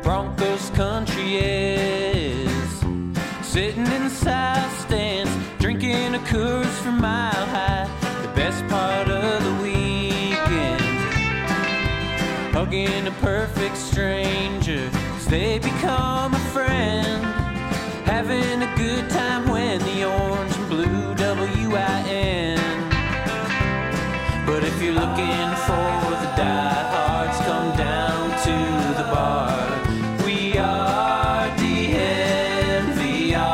Broncos country is. Sitting in the south stands, drinking a Coors from Mile High. The best part of the weekend, hugging a perfect stranger, 'cause they become a friend. Having a good time when the orange and blue WIN. But if you're looking for the diehards, come down to the bar. We are DNVR.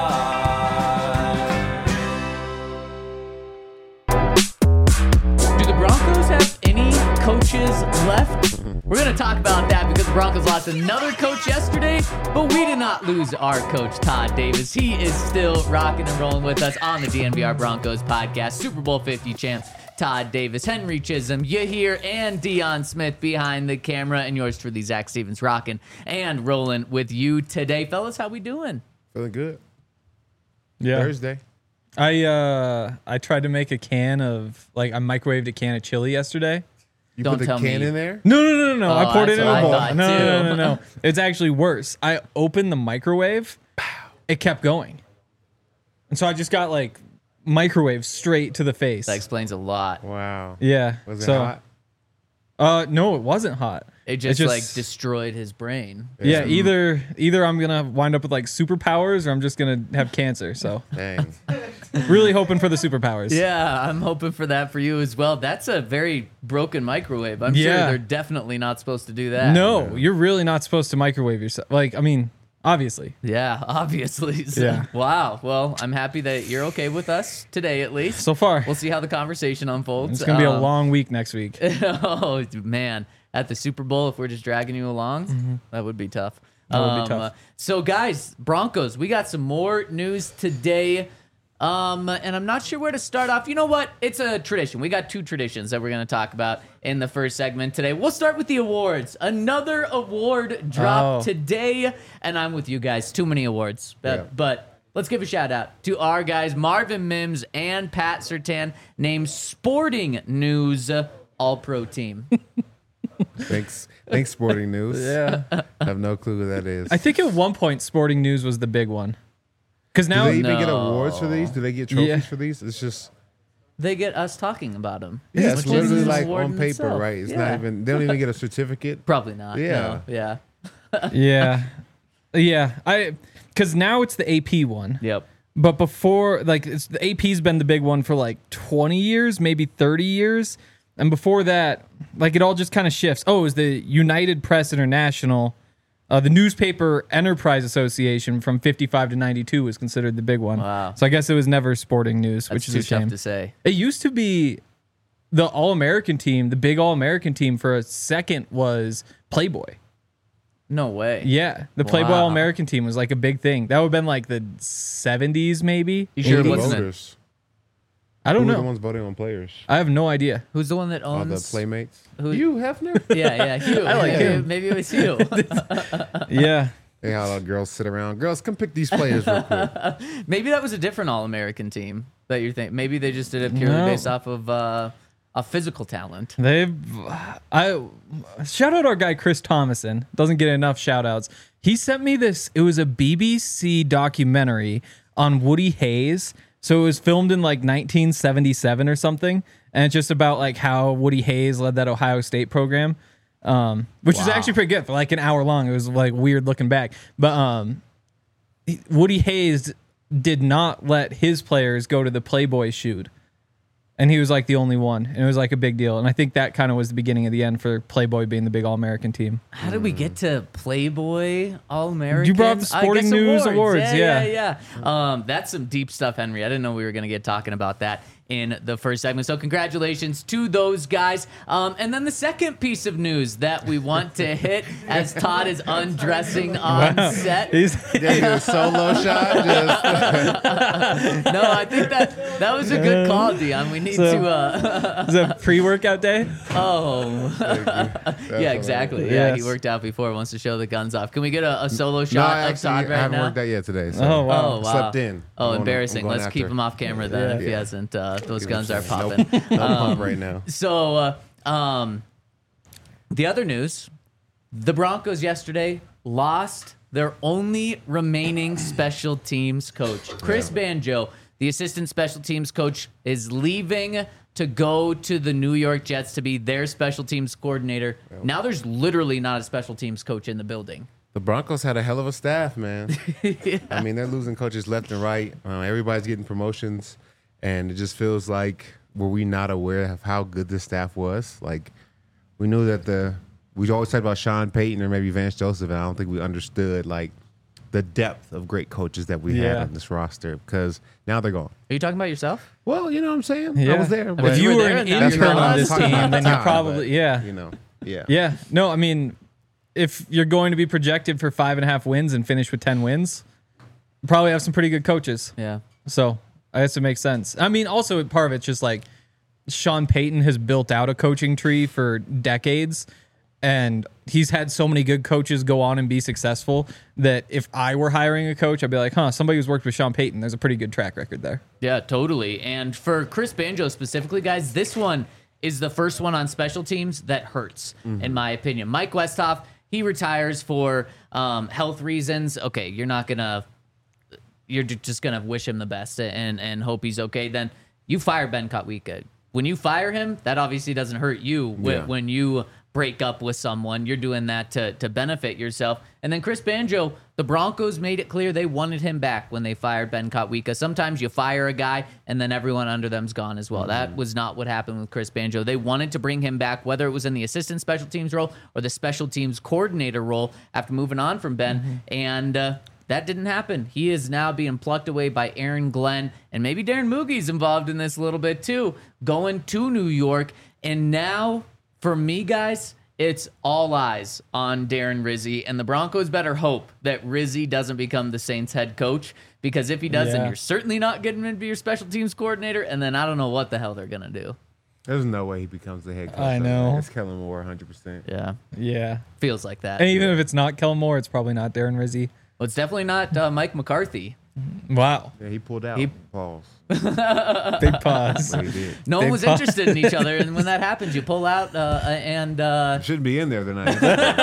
Do the Broncos have any coaches left? We're going to talk about that because the Broncos lost another coach yesterday, but we did not lose our coach, Todd Davis. He is still rocking and rolling with us on the DNVR Broncos podcast. Super Bowl 50 champ, Todd Davis, Henry Chisholm, Yahir, and Dion Smith behind the camera, and yours truly, Zach Stevens, rocking and rolling with you today. Fellas, how we doing? Feeling good. Yeah. Thursday. I tried to make a can of, like, I microwaved a can of chili yesterday. You Don't put the tell can me. in there? No. Oh, I poured it in that's a what bowl. I thought, No. too. It's actually worse. I opened the microwave. It kept going. And so I just got, like, microwave straight to the face. That explains a lot. Wow. Yeah. Was it so, hot? No, it wasn't hot. It just like destroyed his brain. Yeah, either I'm gonna wind up with like superpowers or I'm just gonna have cancer. So Dang. really hoping for the superpowers. Yeah, I'm hoping for that for you as well. That's a very broken microwave. I'm sure Yeah. they're definitely not supposed to do that. No, you're really not supposed to microwave yourself. Like, I mean, obviously. Yeah, obviously. So, Yeah. Wow. Well, I'm happy that you're okay with us today, at least. So far, We'll see how the conversation unfolds. it's gonna be a long week next week. Oh man, at the Super Bowl, if we're just dragging you along, that would be tough. That would be tough. So, guys, Broncos, we got some more news today. And I'm not sure where to start off. You know what? It's a tradition. We got two traditions that we're going to talk about in the first segment today. We'll start with the awards. Another award dropped today, and I'm with you guys. Too many awards. But let's give a shout out to our guys, Marvin Mims and Pat Surtain, named Sporting News All-Pro Team. Thanks, Sporting News. Yeah. I have no clue who that is. I think at one point Sporting News was the big one. Because Do now they even get awards for these? Do they get trophies Yeah. for these? It's just They get us talking about them. yeah, it's Which is literally an like award on in paper, itself. right? It's Yeah. not even. They don't even get a certificate. Probably not. Yeah. No. Yeah. yeah. Because now it's the AP one. Yep. But before, like, the AP's been the big one for like 20 years, maybe 30 years. And before that, like, it all just kind of shifts. Oh, it was the United Press International, the Newspaper Enterprise Association from 55 to 92 was considered the big one. Wow. So I guess it was never Sporting News, That's which is too a shame. tough to say. It used to be the All-American team, the big All-American team for a second was Playboy. No way. Yeah, the Playboy Wow. All-American team was like a big thing. That would have been like the 70s, maybe. You Who sure are it the wasn't? voters? I don't Who are the know. ones voting on players? I have no idea. Who's the one that All the owns? playmates. Who- You, Hefner? Yeah, Hugh. I like maybe, him. Maybe it was Hugh. Yeah. Hey, how the girls sit around. Girls, come pick these players real quick. Maybe that was a different All-American team that you're thinking. Maybe they just did it purely No. based off of a physical talent. I shout out our guy Chris Thomason. Doesn't get enough shout outs. He sent me this. It was a BBC documentary on Woody Hayes. So it was filmed in like 1977 or something, and it's just about like how Woody Hayes led that Ohio State program, which is actually pretty good for like an hour long. It was like weird looking back, but Woody Hayes did not let his players go to the Playboy shoot. And he was like the only one. And it was like a big deal. And I think that kind of was the beginning of the end for Playboy being the big All-American team. How did we get to Playboy All-American? You brought up the Sporting News Awards, yeah. That's some deep stuff, Henry. I didn't know we were going to get talking about that in the first segment. So congratulations to those guys. And then the second piece of news that we want to hit as Todd is undressing on set. He's, Yeah, a solo shot. Just, No, I think that was a good call, Dion. We need to... it's a pre-workout day. Yeah, exactly. Yeah, Yes. he worked out before. Wants to show the guns off. Can we get a solo no, shot I of actually Todd right haven't now? worked out yet today. So Oh, wow. Oh, wow. Slept in. Oh, I'm embarrassing. going Let's keep after. him off camera then if he Yeah. hasn't. Those guns him are some- popping. No pump right now. So, the other news, the Broncos yesterday lost their only remaining special teams coach. Chris Banjo, the assistant special teams coach, is leaving to go to the New York Jets to be their special teams coordinator. Now there's literally not a special teams coach in the building. The Broncos had a hell of a staff, man. I mean, they're losing coaches left and right. Everybody's getting promotions, and it just feels like, were we not aware of how good this staff was? Like, we knew that we always talked about Sean Payton or maybe Vance Joseph, and I don't think we understood, like, the depth of great coaches that we had on this roster, because now they're gone. Are you talking about yourself? Well, you know what I'm saying? Yeah. I was there. If you were an intern on this team, then you're But, probably, you know, yeah. Yeah. No, I mean, if you're going to be projected for 5.5 wins and finish with 10 wins, you probably have some pretty good coaches. Yeah. So I guess it makes sense. I mean, also part of it's just like Sean Payton has built out a coaching tree for decades, and he's had so many good coaches go on and be successful that if I were hiring a coach, I'd be like, somebody who's worked with Sean Payton, there's a pretty good track record there. Yeah, totally. And for Chris Banjo specifically, guys, this one is the first one on special teams that hurts, in my opinion. Mike Westhoff, he retires for health reasons. Okay, you're just gonna wish him the best and hope he's okay. Then you fire Ben Kotwika. When you fire him, that obviously doesn't hurt you. When you break up with someone, you're doing that to benefit yourself. And then Chris Banjo, the Broncos made it clear they wanted him back when they fired Ben Kotwika. Sometimes you fire a guy and then everyone under them's gone as well. That was not what happened with Chris Banjo. They wanted to bring him back, whether it was in the assistant special teams role or the special teams coordinator role after moving on from Ben. And that didn't happen. He is now being plucked away by Aaron Glenn, and maybe Darren Moogie's involved in this a little bit too, going to New York. And now, for me, guys, it's all eyes on Darren Rizzi, and the Broncos better hope that Rizzi doesn't become the Saints head coach, because if he does, then you're certainly not getting him to be your special teams coordinator, and then I don't know what the hell they're going to do. There's no way he becomes the head coach. I know. It's Kellen Moore, 100%. Yeah. Yeah. Feels like that. And even if it's not Kellen Moore, it's probably not Darren Rizzi. Well, it's definitely not Mike McCarthy. Wow. Yeah, he pulled out. Pause. Big pause. What he did. No one Big was pause. interested in each other, and when that happens, you pull out and Shouldn't be in there tonight.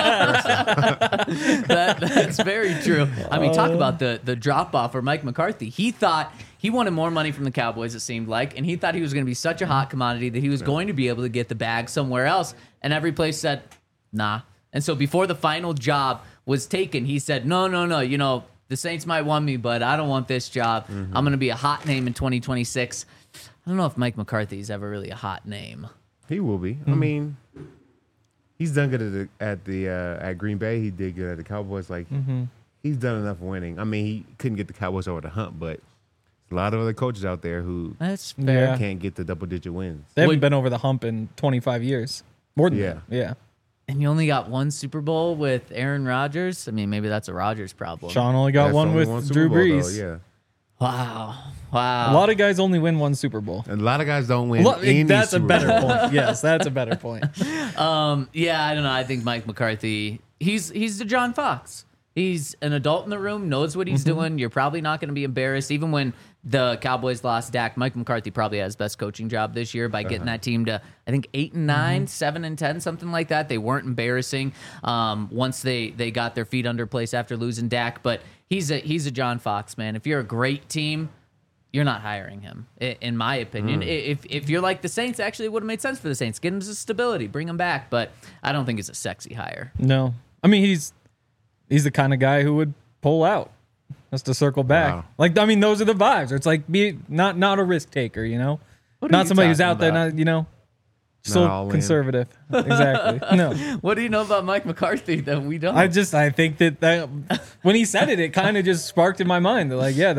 that's very true. I mean, talk about the drop off for Mike McCarthy. He thought he wanted more money from the Cowboys, it seemed like, and he thought he was going to be such a hot commodity that he was going to be able to get the bag somewhere else, and every place said, nah. And so before the final job was taken, he said, no, you know, the Saints might want me, but I don't want this job. I'm going to be a hot name in 2026. I don't know if Mike McCarthy's ever really a hot name. He will be. I mean, he's done good at Green Bay. He did good at the Cowboys. Like, he's done enough winning. I mean, he couldn't get the Cowboys over the hump, but a lot of other coaches out there who That's fair. Yeah. can't get the double-digit wins. They haven't been over the hump in 25 years. More than that. Yeah. And you only got one Super Bowl with Aaron Rodgers? I mean, maybe that's a Rodgers problem. Sean only got That's one only with Super Drew Bowl, Brees. though, Wow. A lot of guys only win one Super Bowl. And a lot of guys don't win any That's a Super better Bowl. point. Yes, that's a better point. Yeah, I don't know. I think Mike McCarthy, he's the John Fox. He's an adult in the room, knows what he's doing. You're probably not going to be embarrassed. Even when the Cowboys lost Dak, Mike McCarthy probably had his best coaching job this year by getting that team to, I think, 8-9, 7-10, something like that. They weren't embarrassing once they got their feet under place after losing Dak. But he's a John Fox, man. If you're a great team, you're not hiring him, in my opinion. If you're like the Saints, actually, it would have made sense for the Saints. Get him some stability, bring him back. But I don't think it's a sexy hire. No. I mean, he's the kind of guy who would pull out. Just to circle back. Wow. Like, I mean, those are the vibes. It's like not a risk taker, you know? What are Not you somebody who's talking out there, about? not, you know, all still in. conservative. Exactly. No. What do you know about Mike McCarthy that we don't? I think that when he said it, it kind of just sparked in my mind. That like, yeah,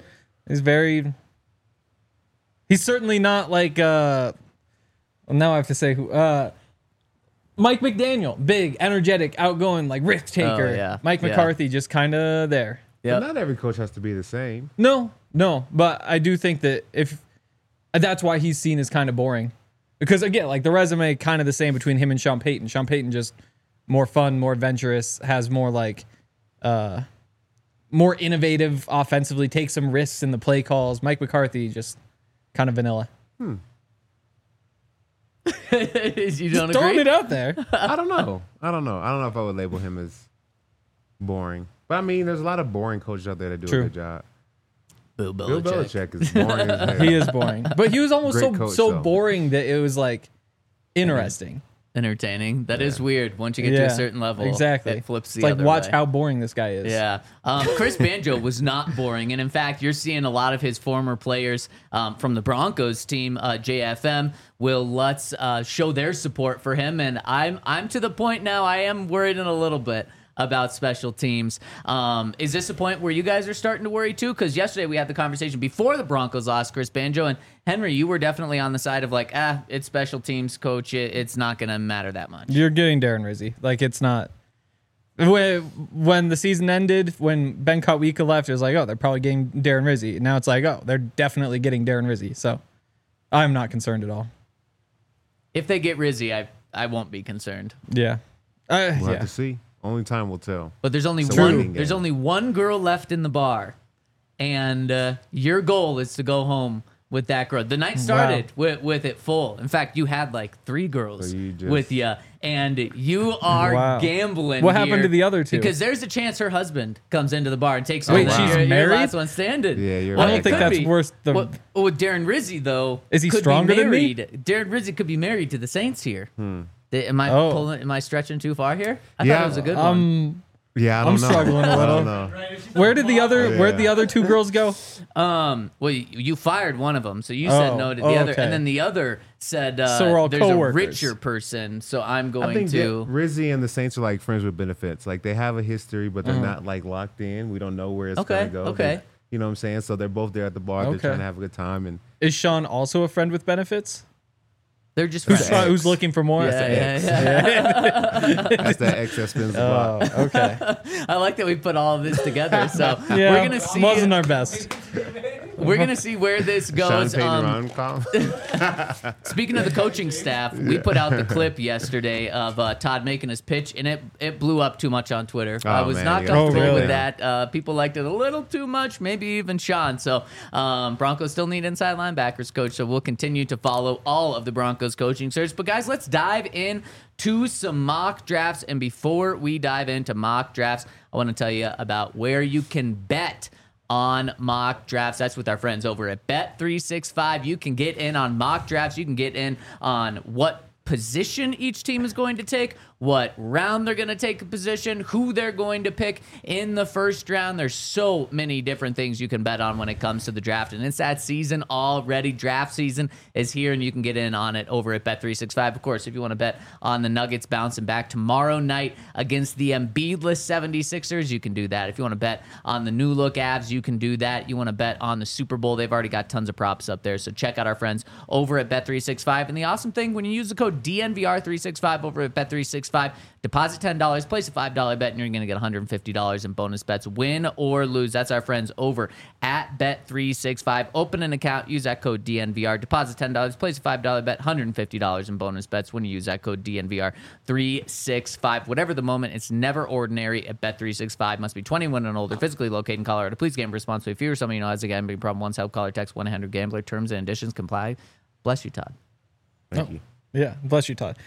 he's certainly not like, well, now I have to say who, Mike McDaniel, big, energetic, outgoing, like risk taker. Oh, yeah. Mike Yeah. McCarthy, just kind of there. Yep. But not every coach has to be the same. No, but I do think that that's why he's seen as kind of boring. Because again, like the resume kind of the same between him and Sean Payton. Sean Payton just more fun, more adventurous, has more like more innovative offensively, takes some risks in the play calls. Mike McCarthy just kind of vanilla. You don't Just throwing agree? it out there. I don't know. I don't know if I would label him as boring. But I mean, there's a lot of boring coaches out there that do True. a good job. Bill Bill Belichick. Belichick is boring as hell. He is boring, but he was almost Great so coach, so though. boring that it was like interesting. Entertaining. That is weird. Once you get to a certain level, exactly. it flips the It's like other watch way. how boring this guy is. Yeah. Chris Banjo was not boring. And in fact, you're seeing a lot of his former players from the Broncos team, JFM, Will Lutz, show their support for him. And I'm to the point now, I am worried in a little bit about special teams. Is this a point where you guys are starting to worry too? Because yesterday we had the conversation before the Broncos lost Chris Banjo. And Henry, you were definitely on the side of like, it's special teams, coach. It's not going to matter that much. You're getting Darren Rizzi. Like it's not. When the season ended, when Ben Kotwika left, it was like, oh, they're probably getting Darren Rizzi. Now it's like, oh, they're definitely getting Darren Rizzi. So I'm not concerned at all. If they get Rizzi, I won't be concerned. Yeah. We'll Yeah. have to see. Only time will tell. But there's only It's a one. waiting There's game. only one girl left in the bar, and your goal is to go home with that girl. The night started with it full. In fact, you had like 3 girls So you just- with you, and you are Wow. gambling. What happened here to the other 2? Because there's a chance her husband comes into the bar and takes Wait, on she's your married? last one standing. Yeah, you're Well, right. I don't it think could that's be. worth the. Well, with Darren Rizzi though, Is he could be stronger than me? married. Darren Rizzi could be married to the Saints here. Am Oh. I stretching too far here? I Yeah. thought it was a good one. Yeah, I don't I'm know. struggling a I little. don't know. Where'd the Yeah. other 2 girls go? Well, you fired one of them, so you said Oh, no to the oh, other, okay. and then the other said, So we're all "There's coworkers. a richer person, so I'm I going think to." that Rizzi and the Saints are like friends with benefits. Like they have a history, but they're not like locked in. We don't know where it's Okay, gonna go. okay. You know what I'm saying? So they're both there at the bar. Okay. They're trying to have a good time. And Is Sean also a friend with benefits? They're just Who's friends. X. Who's looking for more? Yeah, yeah. that's that excess spins the block. Oh, okay. I like that we put all of this together. So Yeah, we're gonna see. wasn't our best. We're gonna see where this Sean goes. Payton Ron column. Speaking of the coaching staff, we put out the clip yesterday of Todd making his pitch, and it blew up too much on Twitter. I Oh, was man, not you gotta comfortable take it with down. that. People liked it a little too much, maybe even Sean. So Broncos still need inside linebackers coach, so we'll continue to follow all of the Broncos coaching search. But guys, let's dive in to some mock drafts. And before we dive into mock drafts, I want to tell you about where you can bet on mock drafts. That's with our friends over at Bet365. You can get in on mock drafts. You can get in on what position each team is going to take, what round they're going to take a position, who they're going to pick in the first round. There's so many different things you can bet on when it comes to the draft, and it's that season already. Draft season is here, and you can get in on it over at Bet365. Of course, if you want to bet on the Nuggets bouncing back tomorrow night against the Embiidless 76ers, you can do that. If you want to bet on the new look Avs, you can do that. You want to bet on the Super Bowl, they've already got tons of props up there, so check out our friends over at Bet365. And the awesome thing, when you use the code DNVR365 over at Bet365, deposit $10, place a $5 bet, and you're going to get $150 in bonus bets, win or lose. That's our friends over at Bet365. Open an account, use that code DNVR, deposit $10, place a $5 bet, $150 in bonus bets when you use that code DNVR365. Whatever the moment, it's never ordinary at Bet365. Must be 21 and older, physically located in Colorado. Please gamble responsibly. If you or someone you know has a gambling problem, once help, call or text 1-800-GAMBLER. Terms and conditions comply. Bless you, Todd. Thank you. Yeah, bless you, Todd.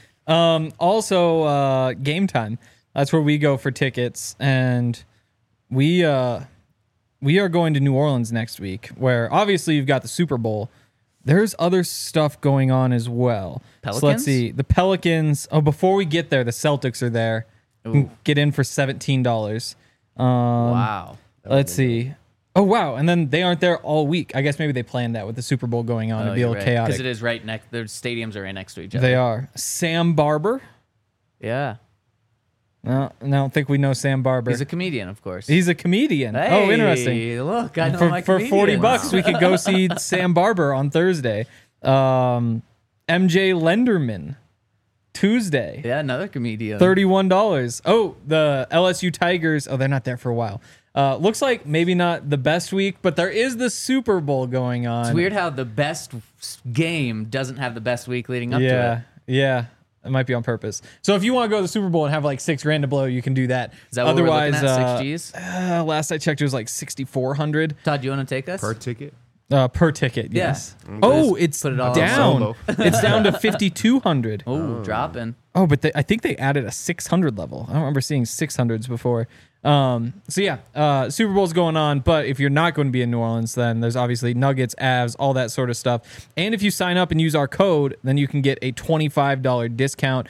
Also, Game Time. That's where we go for tickets, and we are going to New Orleans next week, where obviously you've got the Super Bowl. There's other stuff going on as well. So let's Pelicans? see. The Pelicans. Oh, before we get there, the Celtics are there. You can get in for $17. Wow. Let's see. Oh, wow. And then they aren't there all week. I guess maybe they planned that with the Super Bowl going on. It'd be a little chaotic. Because it is right next. Their stadiums are right next to each other. They are. Sam Barber. Yeah. No, I don't think we know Sam Barber. He's a comedian, of course. He's a comedian. Hey, Oh, interesting. Look, I know For my for comedians. $40, we could go see Sam Barber on Thursday. MJ Lenderman, Tuesday. Yeah, another comedian. $31. Oh, the LSU Tigers. Oh, they're not there for a while. Looks like maybe not the best week, but there is the Super Bowl going on. It's weird how the best game doesn't have the best week leading up to Yeah, it. yeah. It might be on purpose. So if you want to go to the Super Bowl and have like $6,000 to blow, you can do that. Is that what Otherwise, we're looking at? 6 Gs? last I checked, it was like 6,400 Todd, do you want to take us? Per ticket. per ticket. Yeah. Yes. Oh, it's put it all on down. solo. It's down to 5,200. Oh, dropping. Oh, but I think they added a 600 level. I don't remember seeing 600s before. Super Bowl's going on, but if you're not going to be in New Orleans, then there's obviously Nuggets, Avs, all that sort of stuff. And if you sign up and use our code, then you can get a $25 discount.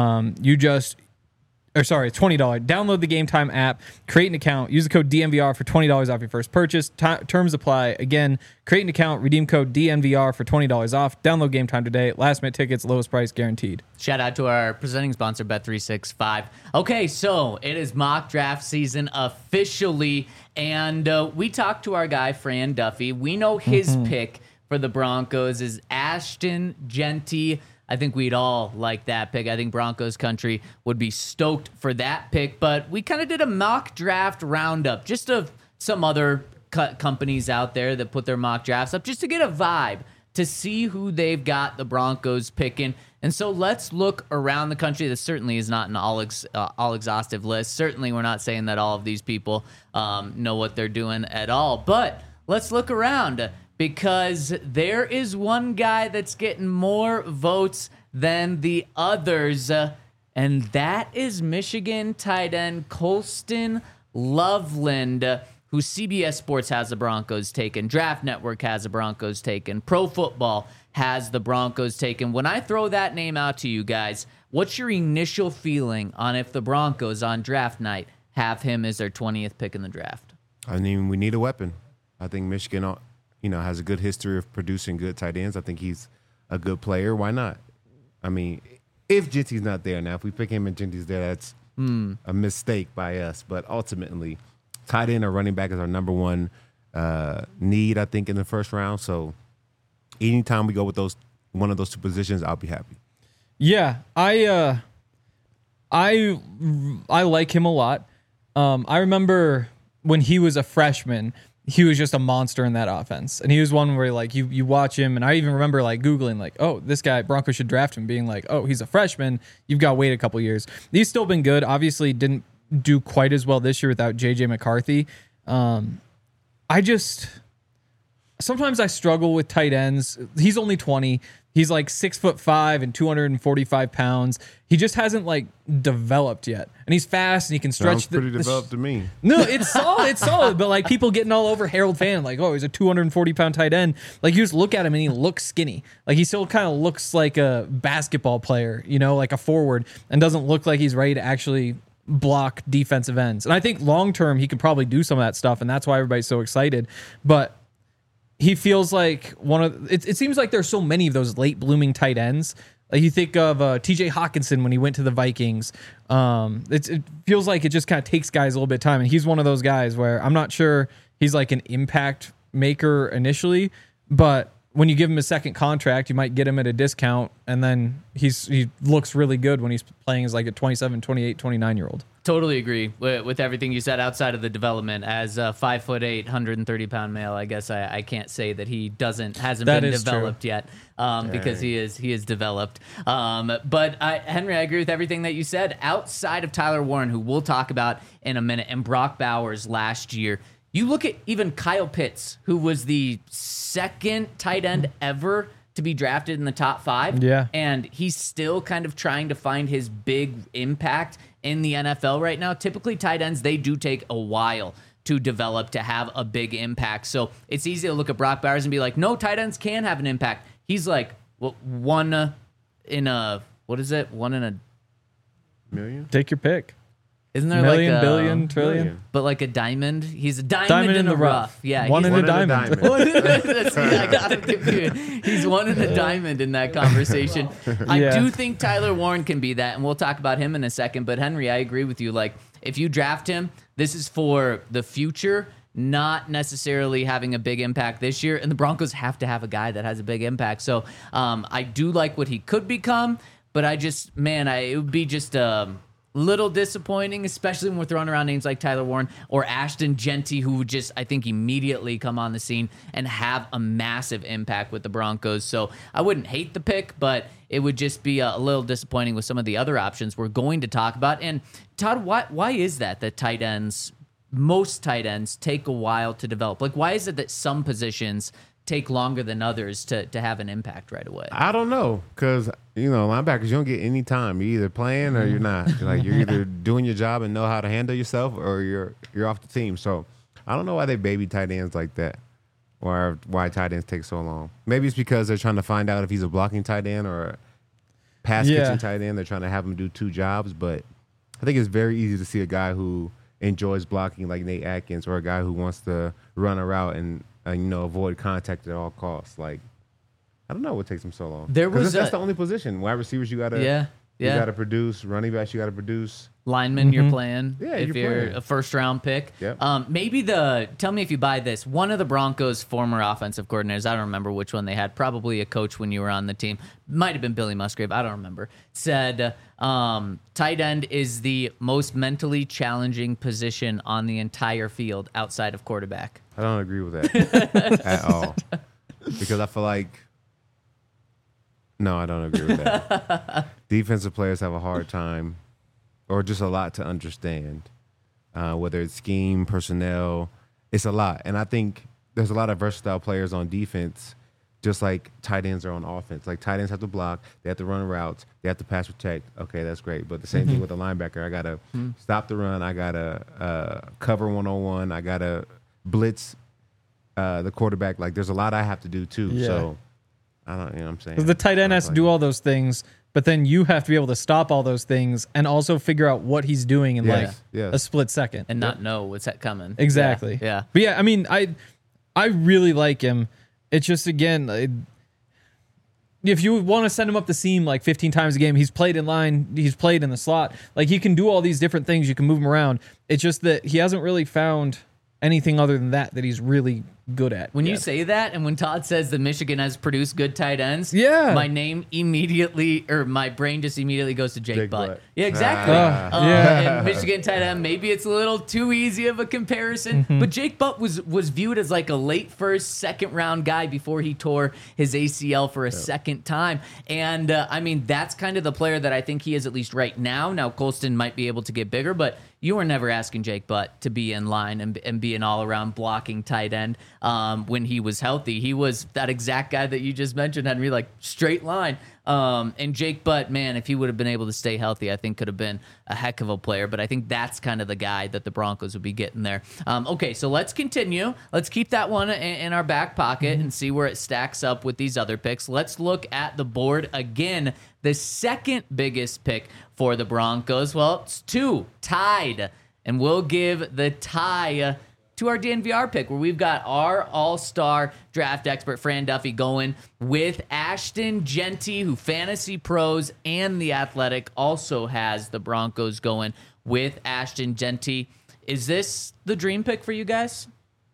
$20. Download the Game Time app, create an account, use the code DNVR for $20 off your first purchase. Terms apply. Again, create an account, redeem code DNVR for $20 off. Download Game Time today. Last minute tickets, lowest price guaranteed. Shout out to our presenting sponsor, Bet365. Okay, so it is mock draft season officially, and we talked to our guy, Fran Duffy. We know his pick for the Broncos is Ashton Jeanty. I think we'd all like that pick. I think Broncos country would be stoked for that pick. But we kind of did a mock draft roundup just of some other companies out there that put their mock drafts up just to get a vibe to see who they've got the Broncos picking. And so let's look around the country. This certainly is not an all exhaustive list. Certainly we're not saying that all of these people know what they're doing at all. But let's look around, because there is one guy that's getting more votes than the others, and that is Michigan tight end Colston Loveland, who CBS Sports has the Broncos taken, Draft Network has the Broncos taken, Pro Football has the Broncos taken. When I throw that name out to you guys, what's your initial feeling on if the Broncos on draft night have him as their 20th pick in the draft? I mean, we need a weapon. I think Michigan, has a good history of producing good tight ends. I think he's a good player. Why not? I mean, if Jinty's not there now, if we pick him and Jinty's there, that's a mistake by us. But ultimately, tight end or running back is our number one need, I think, in the first round. So anytime we go with one of those two positions, I'll be happy. Yeah, I like him a lot. I remember when he was a freshman, he was just a monster in that offense. And he was one where like you watch him, and I even remember like Googling like, oh, this guy, Broncos should draft him, being like, oh, he's a freshman. You've got to wait a couple years. He's still been good. Obviously didn't do quite as well this year without JJ McCarthy. Sometimes I struggle with tight ends. He's only 20. He's like 6'5" and 245 pounds. He just hasn't like developed yet. And he's fast and he can stretch. Sounds pretty developed to me. No, it's solid. It's solid. But like people getting all over Harold Fan, like, oh, he's a 240-pound tight end. Like you just look at him and he looks skinny. Like he still kind of looks like a basketball player, like a forward, and doesn't look like he's ready to actually block defensive ends. And I think long term he could probably do some of that stuff, and that's why everybody's so excited. But he feels like it seems like there's so many of those late blooming tight ends. Like you think of TJ Hawkinson when he went to the Vikings. It feels like it just kind of takes guys a little bit of time. And he's one of those guys where I'm not sure he's like an impact maker initially, but when you give him a second contract, you might get him at a discount, and then he looks really good when he's playing as like a 27, 28, 29-year-old. Totally agree with everything you said outside of the development. As a 5'8", 130-pound male, I guess I can't say that he hasn't been developed yet, because he is developed. But Henry, I agree with everything that you said. Outside of Tyler Warren, who we'll talk about in a minute, and Brock Bowers last year, you look at even Kyle Pitts, who was the second tight end ever to be drafted in the top 5. Yeah. And he's still kind of trying to find his big impact in the NFL right now. Typically, tight ends, they do take a while to develop, to have a big impact. So it's easy to look at Brock Bowers and be like, no, tight ends can have an impact. He's like, one in a million? Take your pick. Isn't there million, like a billion, trillion? But like a diamond? He's a diamond in the rough. Yeah, one he's in a diamond. I got him confused. He's one in a diamond in that conversation. I do think Tyler Warren can be that, and we'll talk about him in a second. But Henry, I agree with you. Like, if you draft him, this is for the future, not necessarily having a big impact this year. And the Broncos have to have a guy that has a big impact. So I do like what he could become, but it would be just little disappointing, especially when we're throwing around names like Tyler Warren or Ashton Jeanty, who would just, I think, immediately come on the scene and have a massive impact with the Broncos. So I wouldn't hate the pick, but it would just be a little disappointing with some of the other options we're going to talk about. And Todd, why is that most tight ends take a while to develop? Like, why is it that some positions take longer than others to have an impact right away? I don't know, because linebackers, you don't get any time. You're either playing or you're not. Like, you're either doing your job and know how to handle yourself, or you're off the team. So I don't know why they baby tight ends like that, or why tight ends take so long. Maybe it's because they're trying to find out if he's a blocking tight end or a pass catching tight end. They're trying to have him do two jobs, but I think it's very easy to see a guy who enjoys blocking like Nate Atkins, or a guy who wants to run a route and avoid contact at all costs. Like, I don't know what takes him so long. That's the only position. Wide receivers, you gotta you gotta produce. Running backs, you gotta produce. Lineman, you're playing. Yeah, if you're playing. a first-round pick. Yep. Tell me if you buy this. One of the Broncos' former offensive coordinators, I don't remember which one they had, probably a coach when you were on the team, might have been Billy Musgrave, I don't remember, said tight end is the most mentally challenging position on the entire field outside of quarterback. I don't agree with that at all, because I feel like no, I don't agree with that. Defensive players have a hard time, or just a lot to understand, whether it's scheme, personnel. It's a lot. And I think there's a lot of versatile players on defense, just like tight ends are on offense. Like, tight ends have to block, they have to run routes, they have to pass protect. Okay, that's great. But the same thing with the linebacker. I got to stop the run, I got to cover one-on-one, I got to blitz the quarterback. Like, there's a lot I have to do too. Yeah. So I don't, what I'm saying? The tight end has to do all those things, but then you have to be able to stop all those things and also figure out what he's doing in a split second. And not know what's coming. Exactly. Yeah. But yeah, I mean, I really like him. It's just, again, if you want to send him up the seam like 15 times a game, he's played in line, he's played in the slot. Like, he can do all these different things. You can move him around. It's just that he hasn't really found anything other than that he's really good at. When you say that, and when Todd says that Michigan has produced good tight ends, my brain just immediately goes to Jake Butt. Yeah, exactly. And Michigan tight end, maybe it's a little too easy of a comparison, but Jake Butt was viewed as like a late first, second round guy before he tore his ACL for a second time. And I mean, that's kind of the player that I think he is, at least right now. Now, Colston might be able to get bigger, but you were never asking Jake Butt to be in line and be an all-around blocking tight end when he was healthy. He was that exact guy that you just mentioned, Henry, like straight line. And Jake Butt, man, if he would have been able to stay healthy, I think could have been a heck of a player. But I think that's kind of the guy that the Broncos would be getting there. Okay, so let's continue. Let's keep that one in our back pocket and see where it stacks up with these other picks. Let's look at the board again. The second biggest pick for the Broncos, well, it's two, tied. And we'll give the tie to our DNVR pick, where we've got our all-star draft expert, Fran Duffy, going with Ashton Jeanty, who Fantasy Pros and The Athletic also has the Broncos going with Ashton Jeanty. Is this the dream pick for you guys?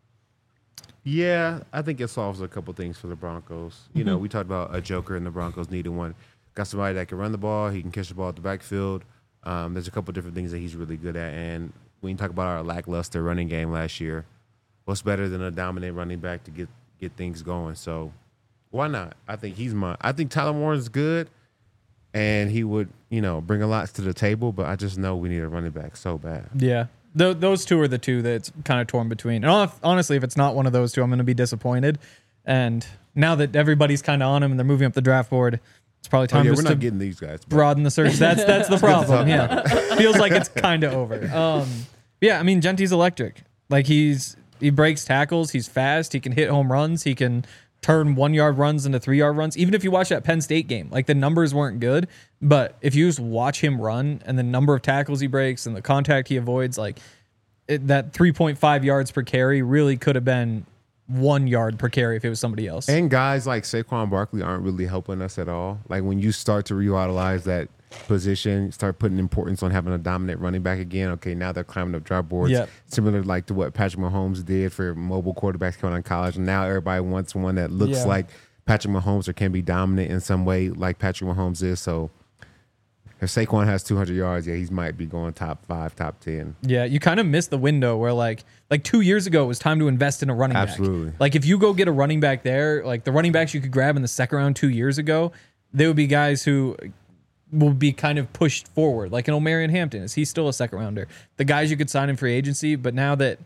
Yeah, I think it solves a couple things for the Broncos. You know, we talked about a joker, and the Broncos needed one. Got somebody that can run the ball. He can catch the ball at the backfield. There's a couple different things that he's really good at. And when you talk about our lackluster running game last year, what's better than a dominant running back to get things going? So why not? I think I think Tyler Moore is good, and he would, bring a lot to the table, but I just know we need a running back so bad. Yeah. Those two are the two that's kind of torn between. And honestly, if it's not one of those two, I'm going to be disappointed. And now that everybody's kind of on him and they're moving up the draft board, it's probably time we're just not to getting these guys. Broaden the search. That's the problem. Yeah. Feels like it's kind of over. Yeah, I mean, Genty's electric. Like, he breaks tackles. He's fast. He can hit home runs. He can turn 1 yard runs into 3 yard runs. Even if you watch that Penn State game, like, the numbers weren't good, but if you just watch him run and the number of tackles he breaks and the contact he avoids, like, that 3.5 yards per carry really could have been 1 yard per carry if it was somebody else. And guys like Saquon Barkley aren't really helping us at all. Like, when you start to revitalize that position, start putting importance on having a dominant running back again, okay, now they're climbing up draft boards. Yep. Similar like to what Patrick Mahomes did for mobile quarterbacks coming out of college. And now everybody wants one that looks like Patrick Mahomes or can be dominant in some way like Patrick Mahomes is. So if Saquon has 200 yards, he might be going top 5, top 10. Yeah, you kind of missed the window where like 2 years ago it was time to invest in a running back. Absolutely. Like, if you go get a running back there, like the running backs you could grab in the second round 2 years ago, they would be guys who will be kind of pushed forward. Like an Omarion Hampton, is he still a second rounder? The guys you could sign in free agency, but now that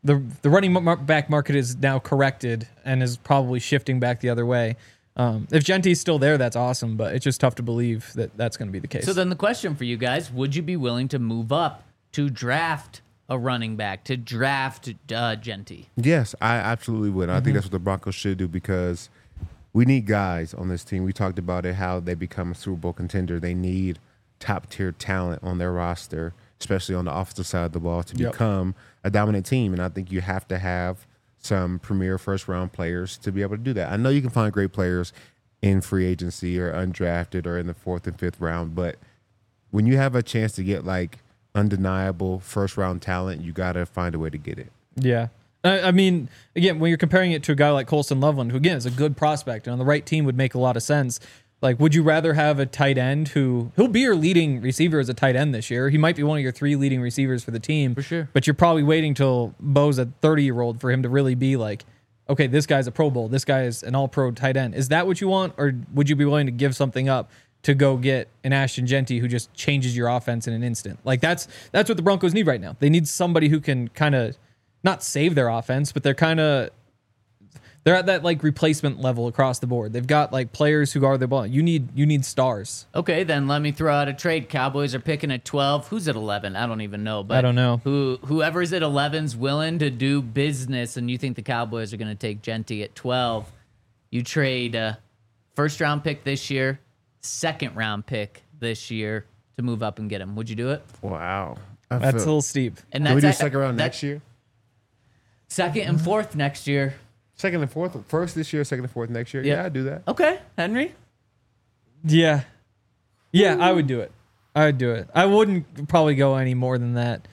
the running back market is now corrected and is probably shifting back the other way. If Genty's still there, that's awesome, but it's just tough to believe that that's going to be the case. So then the question for you guys, would you be willing to move up to draft a running back, to draft Genty? Yes, I absolutely would. I think that's what the Broncos should do because we need guys on this team. We talked about it, how they become a Super Bowl contender. They need top-tier talent on their roster, especially on the offensive side of the ball, to become a dominant team. And I think you have to have some premier first-round players to be able to do that. I know you can find great players in free agency or undrafted or in the 4th and 5th round, but when you have a chance to get like undeniable first-round talent, you got to find a way to get it. Yeah. I mean, again, when you're comparing it to a guy like Colson Loveland, who, again, is a good prospect and on the right team would make a lot of sense. Like, would you rather have a tight end he'll be your leading receiver as a tight end this year? He might be one of your 3 leading receivers for the team. For sure. But you're probably waiting till Bo's a 30-year-old for him to really be like, okay, this guy's a Pro Bowl. This guy is an all-pro tight end. Is that what you want? Or would you be willing to give something up to go get an Ashton Genty who just changes your offense in an instant? Like, that's what the Broncos need right now. They need somebody who can kind of not save their offense, but they're at that like replacement level across the board. They've got like players who guard the ball. You need stars. Okay, then let me throw out a trade. Cowboys are picking at 12. Who's at 11? I don't even know. But I don't know. Whoever's at 11's willing to do business, and you think the Cowboys are going to take Genty at 12. You trade first-round pick this year, second-round pick this year to move up and get him. Would you do it? Wow. That's a little steep. And Can we do that's second round next year? Second and fourth next year. Second and fourth? First this year, second and fourth next year? Yeah. Yeah, I'd do that. Okay, Henry. Yeah, I would do it. I wouldn't probably go any more than that.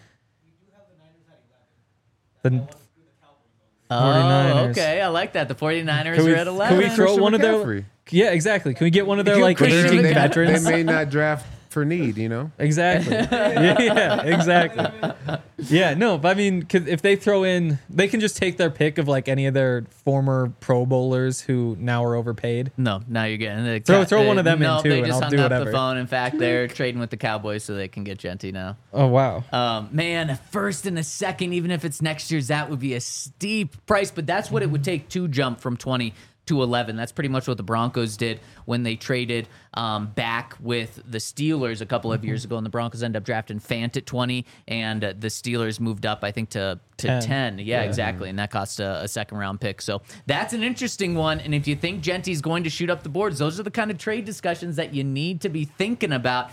The Oh, 49ers. okay. I like that. The 49ers Can we- are at 11. can we throw Christian one of their? McCaffrey. Yeah, exactly. Can we get one of their You like Christian aging McCaffrey. veterans? They may not draft for need, you know? Exactly. yeah, exactly. Yeah, no, but I mean, 'cause if they throw in, they can just take their pick of like any of their former Pro Bowlers who now are overpaid. No, now you're getting the Throw one of them in, no, too, they and just I'll hung do up whatever. the phone. In fact, they're trading with the Cowboys so they can get Genty now. Oh wow. Man, a first and a second, even if it's next year's, that would be a steep price. But that's what it would take to jump from 20 to 11. That's pretty much what the Broncos did when they traded back with the Steelers a couple of years ago. And the Broncos ended up drafting Fant at 20, and the Steelers moved up, I think, to 10. Yeah, exactly. And that cost a second round pick. So that's an interesting one. And if you think Genty's going to shoot up the boards, those are the kind of trade discussions that you need to be thinking about.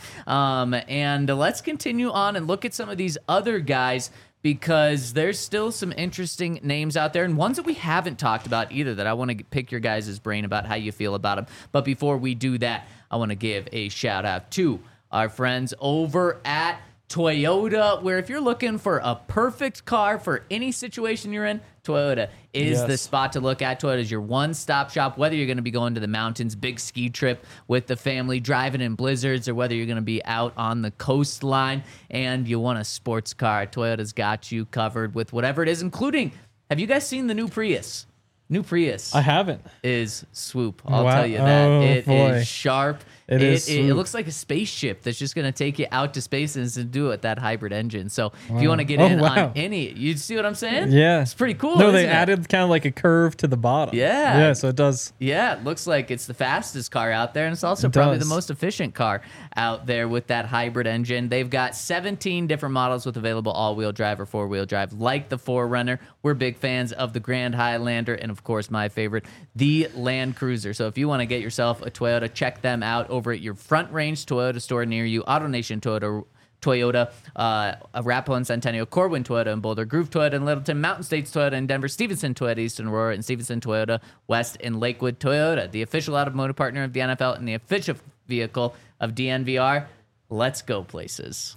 And let's continue on and look at some of these other guys, because there's still some interesting names out there and ones that we haven't talked about either that I want to pick your guys' brain about how you feel about them. But before we do that, I want to give a shout out to our friends over at Toyota, where if you're looking for a perfect car for any situation you're in, Toyota is the spot to look at. Toyota is your one-stop shop, whether you're going to be going to the mountains, big ski trip with the family, driving in blizzards, or whether you're going to be out on the coastline and you want a sports car. Toyota's got you covered with whatever it is, including, have you guys seen the new Prius? New Prius I haven't. is swoop. I'll Wow. tell you that. Oh, It boy. is sharp. It is It swoop. looks like a spaceship that's just going to take you out to space and to do it with that hybrid engine. So if you want to get Oh, in wow. on any, you see what I'm saying? Yeah, It's pretty cool. No, isn't they it? added kind of like a curve to the bottom. Yeah. Yeah, so it does. Yeah, it looks like it's the fastest car out there, and it's also probably the does. most efficient car out there with that hybrid engine. They've got 17 different models with available all-wheel drive or four-wheel drive, like the 4Runner. We're big fans of the Grand Highlander, and of course, my favorite, the Land Cruiser. So if you want to get yourself a Toyota, check them out over at your Front Range Toyota store near you, AutoNation Toyota, Arapahoe and Centennial, Corwin Toyota in Boulder, Groove Toyota in Littleton, Mountain States Toyota in Denver, Stevenson Toyota East in Aurora, and Stevenson Toyota West in Lakewood. Toyota, the official automotive partner of the NFL and the official vehicle of DNVR. Let's go places.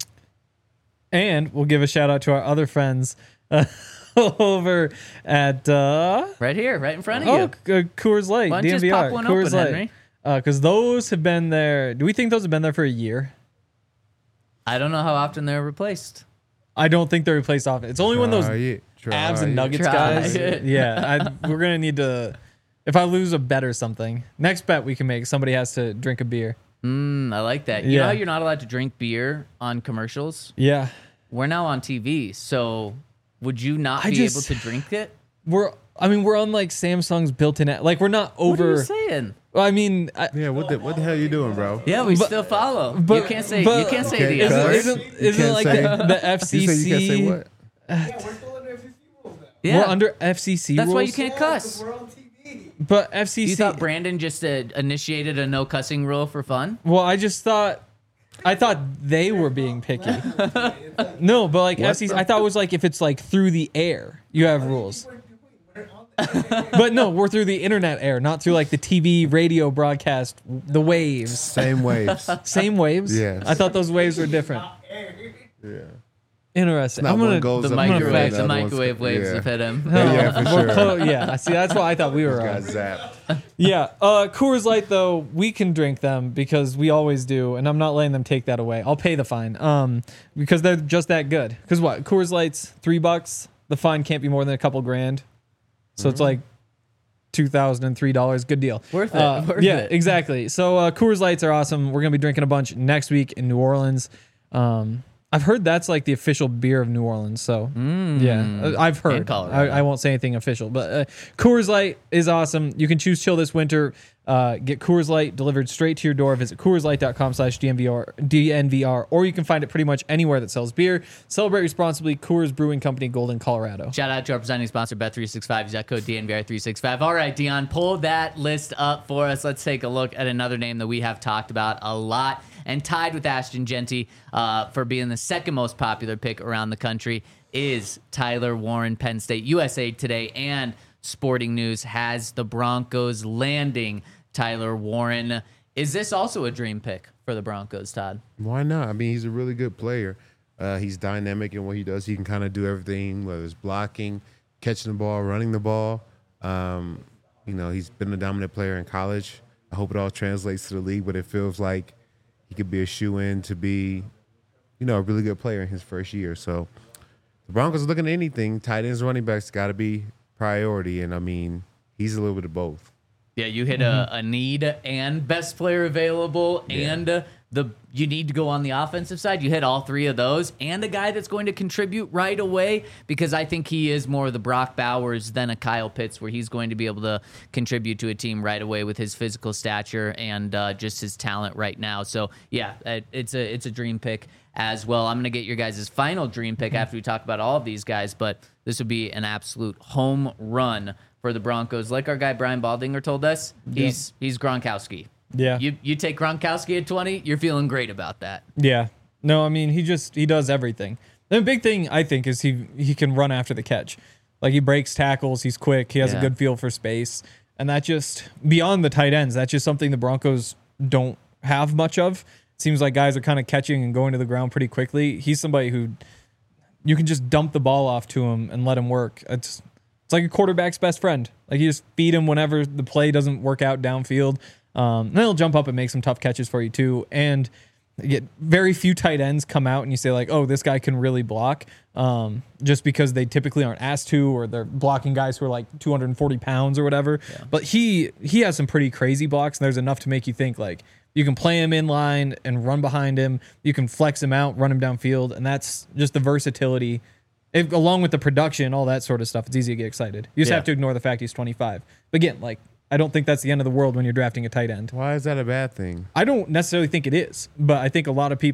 And we'll give a shout out to our other friends over at Right here, right in front of you. Coors Light, Why don't you just DNVR, pop one Coors open, Light. Henry? Because those have been there. Do we think those have been there for a year? I don't know how often they're replaced. I don't think they're replaced often. It's only when those abs and nuggets Try guys. it. Yeah, we're gonna need to. If I lose a bet or something, next bet we can make, somebody has to drink a beer. I like that. You Yeah. know how you're not allowed to drink beer on commercials? Yeah. We're now on TV, so would you not I be just- able to drink it? We're on like Samsung's built-in app. Like we're not What are over. you saying? I mean, Yeah, what the hell you doing, bro? Yeah, we still follow. but- you can't say but- you can't say Okay, the cuss. S word. isn't You it can't like say- the FCC? You say you can't say what? Yeah, we're still under FCC rules now. Yeah, We're under FCC that's rules. why you can't cuss. We're on TV. But FCC. You thought Brandon just initiated a no cussing rule for fun? Well, I thought they were being picky. No, but like What FCC, the I thought it was like if it's like through the air, you have rules. We're on the But no, we're through the internet air, not through like the TV, radio broadcast, the waves. Same waves. Same waves. Yes. I thought those waves were different. Yeah. Interesting. Not I'm one gonna goes The up here, microwave, the the other one's- microwave waves yeah. have hit him. Yeah, for Well, sure. yeah. See, that's why I thought we were Got on. zapped. Yeah. Coors Light though, we can drink them because we always do, and I'm not letting them take that away. I'll pay the fine. Because they're just that good. Because what? Coors Light's $3. The fine can't be more than a couple grand. So it's like $2,003. Good deal. Worth it, worth yeah, it. exactly. So Coors Lights are awesome. We're gonna be drinking a bunch next week in New Orleans. I've heard that's like the official beer of New Orleans. So yeah, I've heard. Colorado. I won't say anything official, but Coors Light is awesome. You can choose chill this winter. Get Coors Light delivered straight to your door. Visit CoorsLight.com/DNVR, or you can find it pretty much anywhere that sells beer. Celebrate responsibly. Coors Brewing Company, Golden, Colorado. Shout out to our presenting sponsor, Bet365. Use that code DNVR365. All right, Dion, pull that list up for us. Let's take a look at another name that we have talked about a lot and tied with Ashton Genty for being the second most popular pick around the country is Tyler Warren. Penn State USA Today and Sporting News has the Broncos landing Tyler Warren. Is this also a dream pick for the Broncos, Todd? Why not? I mean, he's a really good player. He's dynamic in what he does. He can kind of do everything, whether it's blocking, catching the ball, running the ball. He's been a dominant player in college. I hope it all translates to the league, but it feels like he could be a shoe-in to be, a really good player in his first year. So the Broncos are looking at anything. Tight ends, running backs got to be priority, and I mean, he's a little bit of both. Yeah, you hit a need and best player available, and you need to go on the offensive side. You hit all three of those, and a guy that's going to contribute right away, because I think he is more of the Brock Bowers than a Kyle Pitts, where he's going to be able to contribute to a team right away with his physical stature and just his talent right now. So yeah, it's a dream pick as well. I'm going to get your guys' final dream pick after we talk about all of these guys, but this would be an absolute home run for the Broncos. Like our guy Brian Baldinger told us, he's Gronkowski. Yeah. You take Gronkowski at 20, you're feeling great about that. Yeah. No, I mean, he does everything. The big thing, I think, is he can run after the catch. Like, he breaks tackles, he's quick, he has a good feel for space. And that just, beyond the tight ends, that's just something the Broncos don't have much of. It seems like guys are kind of catching and going to the ground pretty quickly. He's somebody who you can just dump the ball off to him and let him work. It's like a quarterback's best friend. Like, you just feed him whenever the play doesn't work out downfield. Then he'll jump up and make some tough catches for you too. And yet very few tight ends come out and you say like, oh, this guy can really block, just because they typically aren't asked to, or they're blocking guys who are like 240 pounds or whatever. Yeah. But he has some pretty crazy blocks, and there's enough to make you think like you can play him in line and run behind him. You can flex him out, run him downfield, and that's just the versatility. Along with the production, all that sort of stuff, it's easy to get excited. You just have to ignore the fact he's 25. But again, like, I don't think that's the end of the world when you're drafting a tight end. Why is that a bad thing? I don't necessarily think it is, but I think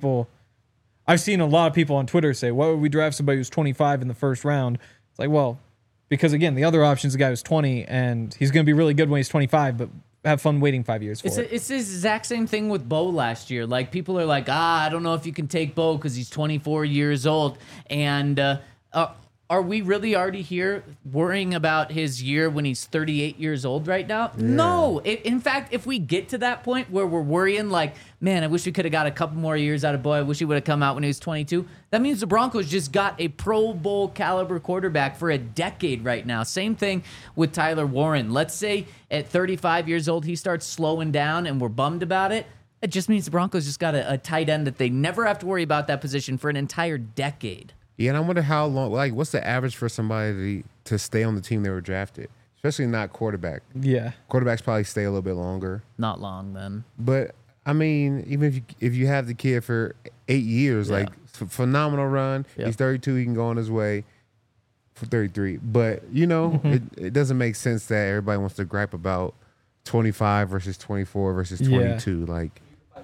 I've seen a lot of people on Twitter say, why would we draft somebody who's 25 in the first round? It's like, well, because again, the other option is a guy who's 20, and he's going to be really good when he's 25, but have fun waiting 5 years for it. It's the exact same thing with Bo last year. Like, people are like, I don't know if you can take Bo because he's 24 years old. And are we really already here worrying about his year when he's 38 years old right now? Yeah. No. In fact, if we get to that point where we're worrying like, man, I wish we could have got a couple more years out of Bo. I wish he would have come out when he was 22. That means the Broncos just got a Pro Bowl caliber quarterback for a decade right now. Same thing with Tyler Warren. Let's say at 35 years old, he starts slowing down and we're bummed about it. It just means the Broncos just got a tight end that they never have to worry about that position for an entire decade. Yeah, and I wonder how long, like, what's the average for somebody to stay on the team they were drafted? Especially not quarterback. Yeah. Quarterbacks probably stay a little bit longer. Not long, then. But, I mean, even if you have the kid for 8 years, like, phenomenal run. Yeah. He's 32, he can go on his way. for 33. But it doesn't make sense that everybody wants to gripe about 25 versus 24 versus 22. Like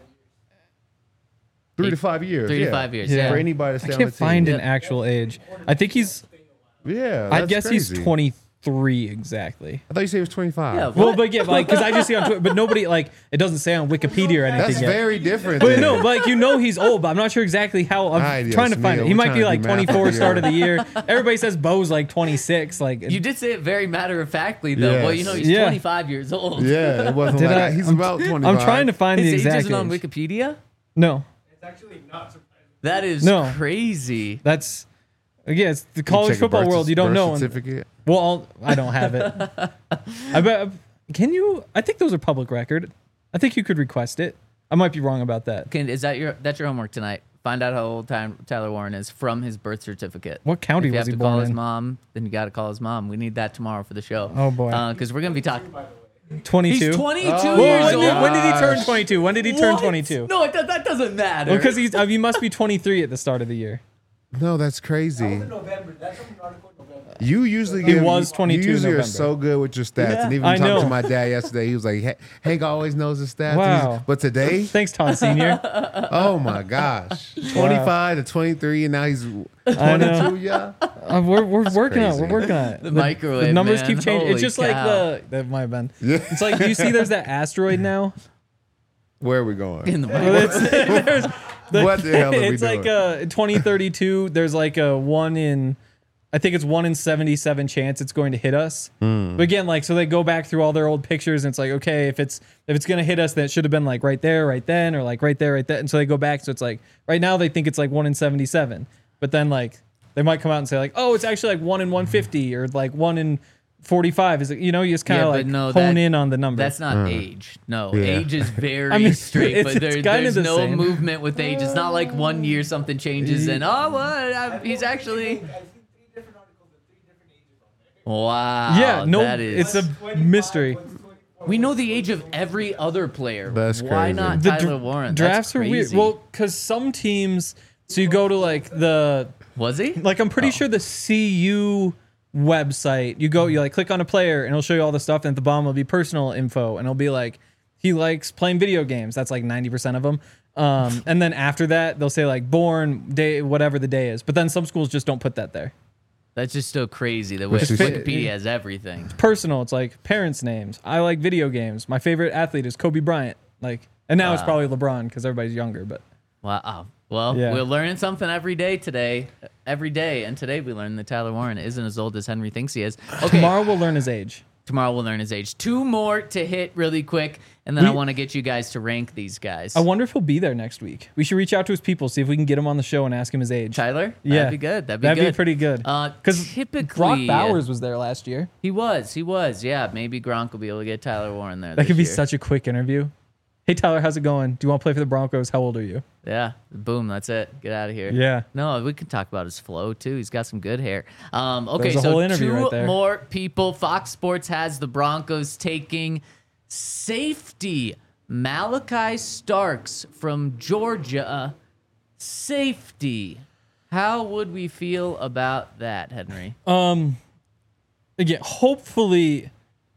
3 to 5 years. 3 to 5 years. Yeah. For anybody to I stay on the can't team. find an actual age. I think he's. Yeah, I that's guess crazy. he's 23 exactly. I thought you said he was 25. Yeah, Well, but yeah, like because I just see on Twitter, but nobody like it doesn't say on Wikipedia or anything. That's yet. very different. But then. no, but he's old, but I'm not sure exactly how. I'm Right, trying to yes, find Mia, it. He we're might trying be to like do math 24 here. start of the year. Everybody says Bo's like 26. Like You did say it very matter of factly though. Yes. Well, he's Yeah. 25 years old. Yeah, it wasn't Did like I- he's I'm- about 25. I'm trying to find His the age exact isn't on age. Wikipedia. No, It's actually not surprising. That is No. crazy. that's it's the You college check a football birth- world. You don't birth know. certificate. Well, I don't have it. I bet. Can you? I think those are public record. I think you could request it. I might be wrong about that. Is that's your homework tonight? Find out how old Tyler Warren is from his birth certificate. What county If you was have he to call born his in? mom, then you got to call his mom. We need that tomorrow for the show. Oh, boy. Because we're gonna be talking. 22. He's 22 Oh, years When old. did he turn 22? When did he turn What? 22? No, that doesn't matter. Because he must be 23 at the start of the year. No, that's crazy. In November. That's from an article in November. You usually He give, was 22 You usually in are November. so good with your stats, Yeah. and even I talking know. to my dad yesterday, he was like, "Hank always knows his stats." Wow. But today, Thanks, Todd Senior. oh my gosh, 25 to 23, and now he's I know. 22. Yeah, We're working on it. crazy. We're working on it. The microwave, The numbers man. keep changing. Holy It's just cow. like that might have been. yeah. It's like, do you see there's that asteroid now? Where are we going? in the Well, there's What the hell are we it's like doing? 2032. There's like a 1 in, I think it's 1 in 77 chance it's going to hit us. Hmm. But again, like so they go back through all their old pictures and it's like, okay, if it's going to hit us, then it should have been like right there, right then, or like right there, right then. And so they go back. So it's like right now they think it's like 1 in 77, but then like they might come out and say like, oh, it's actually like 1 in 150 or like 1 in 45. Is it, you just kind Yeah, of but like no, hone that- in on the number. That's not age. No, Yeah. age is very I mean, straight, it's- but it's kinda there's the no same. movement with age. It's not like 1 year something changes and he's actually. I've seen 3 different articles with 3 different ages on there. Wow. yeah, no, that is. it's a mystery. What's 24? We know the age of every other player. That's Why crazy. not The Tyler Warren? Drafts That's are weird. crazy. Well, because some teams, so you go to like was he? like I'm pretty sure the CU website, you like click on a player and it'll show you all the stuff, and at the bottom will be personal info, and it'll be like he likes playing video games. That's like 90% of them. And then after that, they'll say like born day, whatever the day is. But then some schools just don't put that there. That's just so crazy. The Which is- Wikipedia has everything. Personal, it's like parents' names. I like video games. My favorite athlete is Kobe Bryant. Like, and now it's Wow. probably LeBron because everybody's younger. But Wow. Well, Yeah. we're learning something every day today. Every day. And today we learned that Tyler Warren isn't as old as Henry thinks he is. Okay. tomorrow we'll learn his age. Tomorrow we'll learn his age. 2 more to hit really quick, and then I want to get you guys to rank these guys. I wonder if he'll be there next week. We should reach out to his people, see if we can get him on the show and ask him his age. Tyler? Yeah. That'd be good. That'd be That'd good. be pretty good. Because typically, Brock Bowers was there last year. He was. Yeah, maybe Gronk will be able to get Tyler Warren there. That could be this year. such a quick interview. Hey Tyler, how's it going? Do you want to play for the Broncos? How old are you? Yeah. Boom. That's it. Get out of here. Yeah. No, we can talk about his flow too. He's got some good hair. Okay, There's a so whole interview 2 right there. more people. Fox Sports has the Broncos taking safety Malachi Starks from Georgia. Safety. How would we feel about that, Henry? Again, hopefully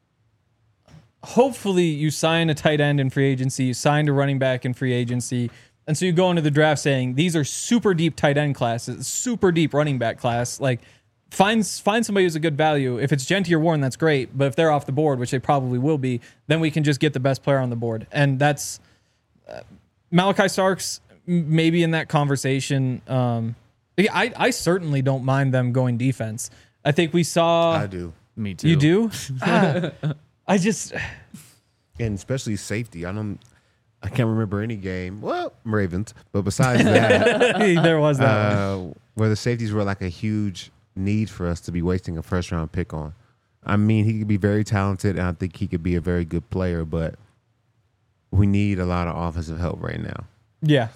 you sign a tight end in free agency, you signed a running back in free agency, and so you go into the draft saying these are super deep tight end classes, super deep running back class. Like find somebody who's a good value. If it's Genty or Warren, that's great. But if they're off the board, which they probably will be, then we can just get the best player on the board. And that's Malachi Starks maybe in that conversation. I certainly don't mind them going defense. I think we saw. I do, Me too. You do? I just. and especially safety. I can't remember any game. Well, Ravens, but besides that, There was that one. where the safeties were like a huge need for us to be wasting a first round pick on. I mean, he could be very talented, and I think he could be a very good player, but we need a lot of offensive help right now. Yeah.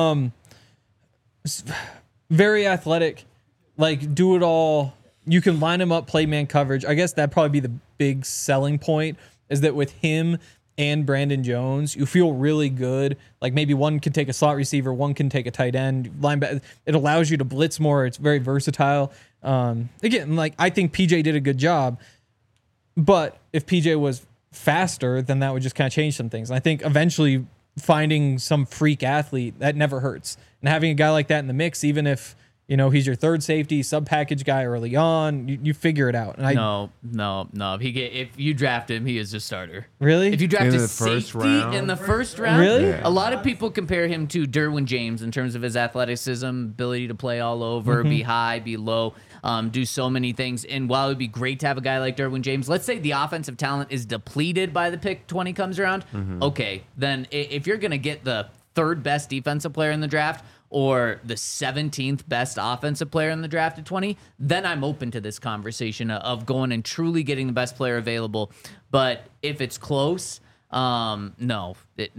Very athletic. Like, do it all. You can line him up, play man coverage. I guess that'd probably be the big selling point, is that with him and Brandon Jones, you feel really good. Like maybe one can take a slot receiver, one can take a tight end. Linebacker. It allows you to blitz more. It's very versatile. Again, like I think PJ did a good job, but if PJ was faster, then that would just kind of change some things. And I think eventually finding some freak athlete that never hurts, and having a guy like that in the mix, even if he's your third safety, sub package guy early on, you figure it out. And No. If you draft him, he is a starter. Really? If you draft In a the first safety round? in the first round, Really? Yeah. a lot of people compare him to Derwin James in terms of his athleticism, ability to play all over, be high, be low, do so many things. And while it would be great to have a guy like Derwin James, let's say the offensive talent is depleted by the pick 20 comes around. Okay, then if you're going to get the third best defensive player in the draft, or the 17th best offensive player in the draft at 20, then I'm open to this conversation of going and truly getting the best player available. But if it's close, no.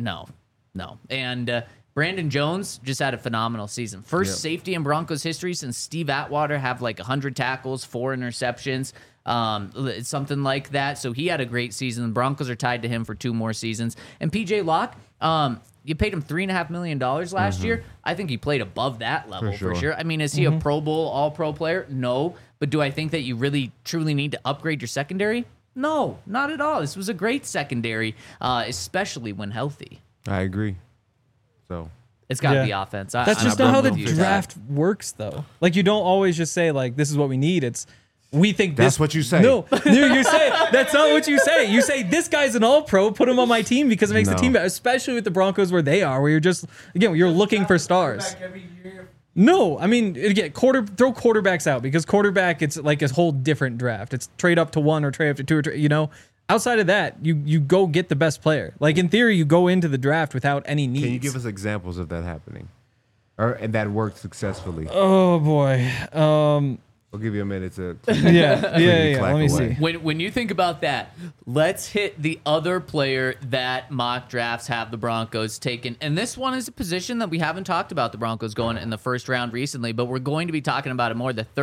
And Brandon Jones just had a phenomenal season. First safety in Broncos history since Steve Atwater have like 100 tackles, 4 interceptions, something like that. So he had a great season. The Broncos are tied to him for 2 more seasons. And PJ Locke, you paid him $3.5 million last year. I think he played above that level for sure. I mean, is he a Pro Bowl, All-Pro player? No. But do I think that you really, truly need to upgrade your secondary? No, not at all. This was a great secondary, especially when healthy. I agree. So It's got to be offense. That's I'm just not how the with you. draft works, though. Like, you don't always just say, like, this is what we need. It's, we think That's this. what you say. No, you say that's not what you say. You say this guy's an all-pro. Put him on my team because it makes the team better, especially with the Broncos where they are, where you're just you're looking for stars. Back every year. No, I mean again, throw quarterbacks out because quarterback it's like a whole different draft. It's trade up to 1 or trade up to 2 or outside of that, you go get the best player. Like in theory, you go into the draft without any needs. can you give us examples of that happening, and that worked successfully? Oh boy. I'll give you a minute to. Yeah. clack Let me away. see. When you think about that, let's hit the other player that mock drafts have the Broncos taken. And this one is a position that we haven't talked about the Broncos going in the first round recently, but we're going to be talking about it more. The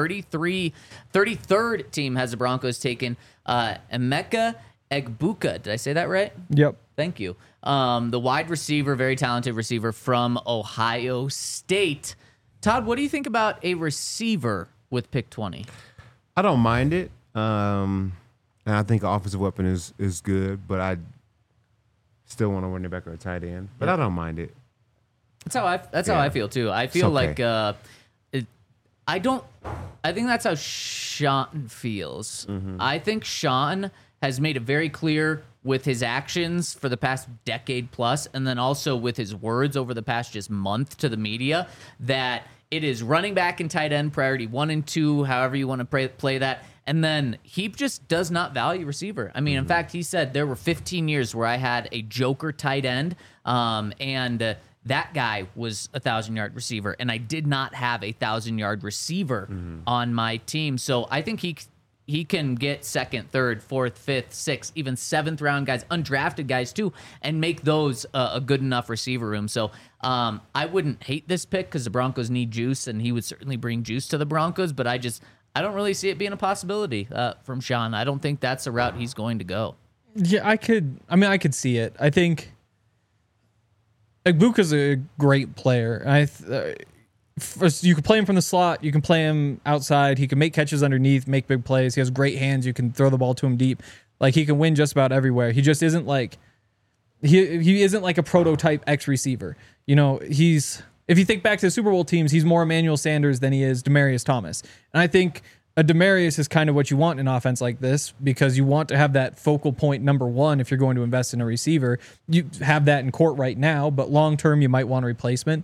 33rd team has the Broncos taken Emeka Egbuka. Did I say that right? Yep. Thank you. The wide receiver, very talented receiver from Ohio State. Todd, what do you think about a receiver with pick 20? I don't mind it. And I think an offensive weapon is good, but I still want to run it back or a tight end. But I don't mind it. That's how I feel too. I feel okay. like I think that's how Sean feels. I think Sean has made it very clear with his actions for the past decade plus, and then also with his words over the past just month to the media, that it is running back and tight end priority 1 and 2, however you want to play that. And then he just does not value receiver. I mean, in fact, he said there were 15 years where I had a joker tight end, and that guy was a 1,000-yard receiver, and I did not have a 1,000-yard receiver on my team. So I think he can get 2nd, 3rd, 4th, 5th, 6th, even 7th round guys, undrafted guys too, and make those a good enough receiver room. So I wouldn't hate this pick because the Broncos need juice, and he would certainly bring juice to the Broncos, but I don't really see it being a possibility from Sean. I don't think that's a route he's going to go. Yeah, I could see it. I think Egbuka's a great player. You can play him from the slot. You can play him outside. He can make catches underneath, make big plays. He has great hands. You can throw the ball to him deep. Like, he can win just about everywhere. He just isn't like he isn't like a prototype X receiver. If you think back to the Super Bowl teams, he's more Emmanuel Sanders than he is Demaryius Thomas. And I think a Demaryius is kind of what you want in an offense like this, because you want to have that focal point number 1 if you're going to invest in a receiver. You have that in court right now, but long term you might want a replacement.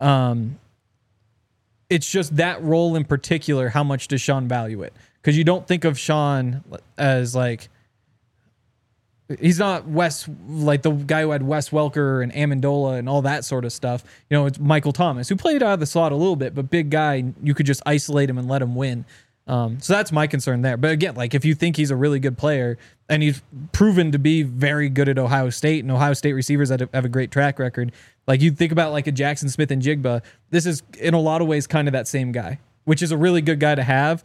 It's just that role in particular, how much does Sean value it? Because you don't think of Sean as like, he's not like the guy who had Wes Welker and Amendola and all that sort of stuff. It's Michael Thomas, who played out of the slot a little bit, but big guy, you could just isolate him and let him win. So that's my concern there. But again, like, if you think he's a really good player and he's proven to be very good at Ohio State, and Ohio State receivers that have a great track record, like you think about like a Jackson Smith and Jigba, this is in a lot of ways kind of that same guy, which is a really good guy to have.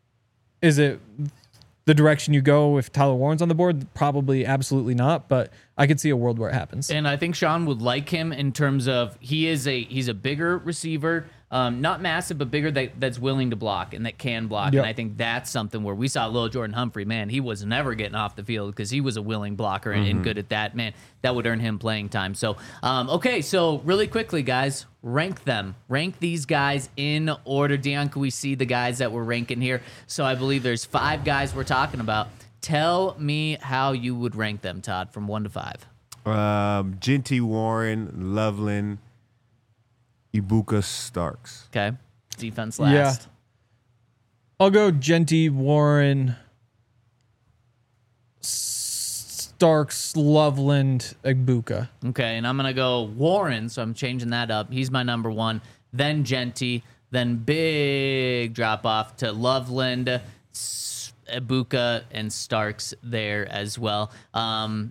Is it the direction you go if Tyler Warren's on the board? Probably absolutely not. But I could see a world where it happens. And I think Sean would like him in terms of he's a bigger receiver, not massive, but bigger that's willing to block and that can block. Yep. And I think that's something where we saw little Jordan Humphrey, man, he was never getting off the field because he was a willing blocker and good at that. Man, that would earn him playing time. So, okay, so really quickly, guys, rank them. Rank these guys in order. Dion, can we see the guys that we're ranking here? So I believe there's 5 guys we're talking about. Tell me how you would rank them, Todd, from 1 to 5. Genty, Warren, Loveland, Ibuka, Starks. Okay. Defense last. Yeah. I'll go Genty, Warren, Starks, Loveland, Ibuka. Okay, and I'm going to go Warren, so I'm changing that up. He's my number 1. Then Genty. Then big drop off to Loveland, Ibuka, and Starks there as well. Ibuka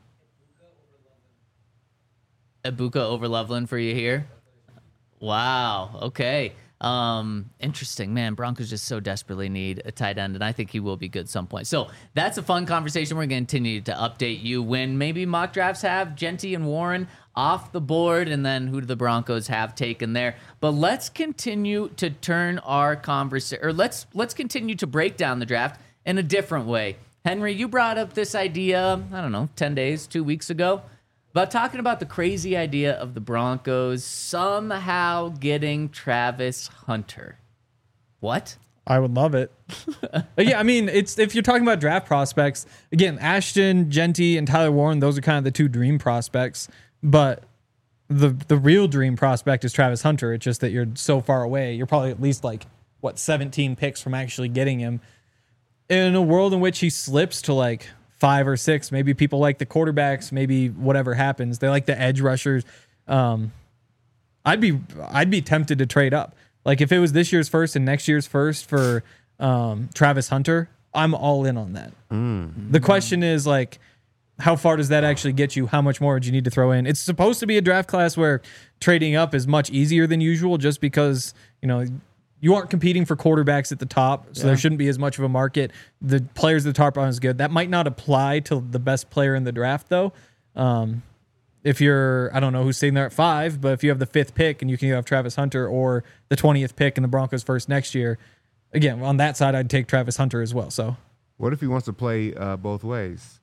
over Loveland for you here? Wow. Okay. Interesting, man. Broncos just so desperately need a tight end, and I think he will be good at some point. So that's a fun conversation. We're going to continue to update you when maybe mock drafts have Genty and Warren off the board, and then who do the Broncos have taken there. But let's continue to turn our conversation, or let's continue to break down the draft in a different way. Henry, you brought up this idea, I don't know, 10 days, 2 weeks ago, about talking about the crazy idea of the Broncos somehow getting Travis Hunter. What? I would love it. Yeah, I mean, it's if you're talking about draft prospects, again, Ashton, Genty, and Tyler Warren, those are kind of the 2 dream prospects. But the real dream prospect is Travis Hunter. It's just that you're so far away. You're probably at least 17 picks from actually getting him. In a world in which he slips to 5 or 6, maybe people like the quarterbacks, maybe whatever happens, they like the edge rushers. I'd be tempted to trade up. If it was this year's first and next year's first for Travis Hunter, I'm all in on that. The question is how far does that actually get you? How much more would you need to throw in? It's supposed to be a draft class where trading up is much easier than usual, just because you aren't competing for quarterbacks at the top, so there shouldn't be as much of a market. The players at the top aren't as good. That might not apply to the best player in the draft, though. If you're, I don't know who's sitting there at 5, but if you have the 5th pick and you can either have Travis Hunter or the 20th pick in the Broncos first next year, again, on that side, I'd take Travis Hunter as well. So, What if he wants to play both ways?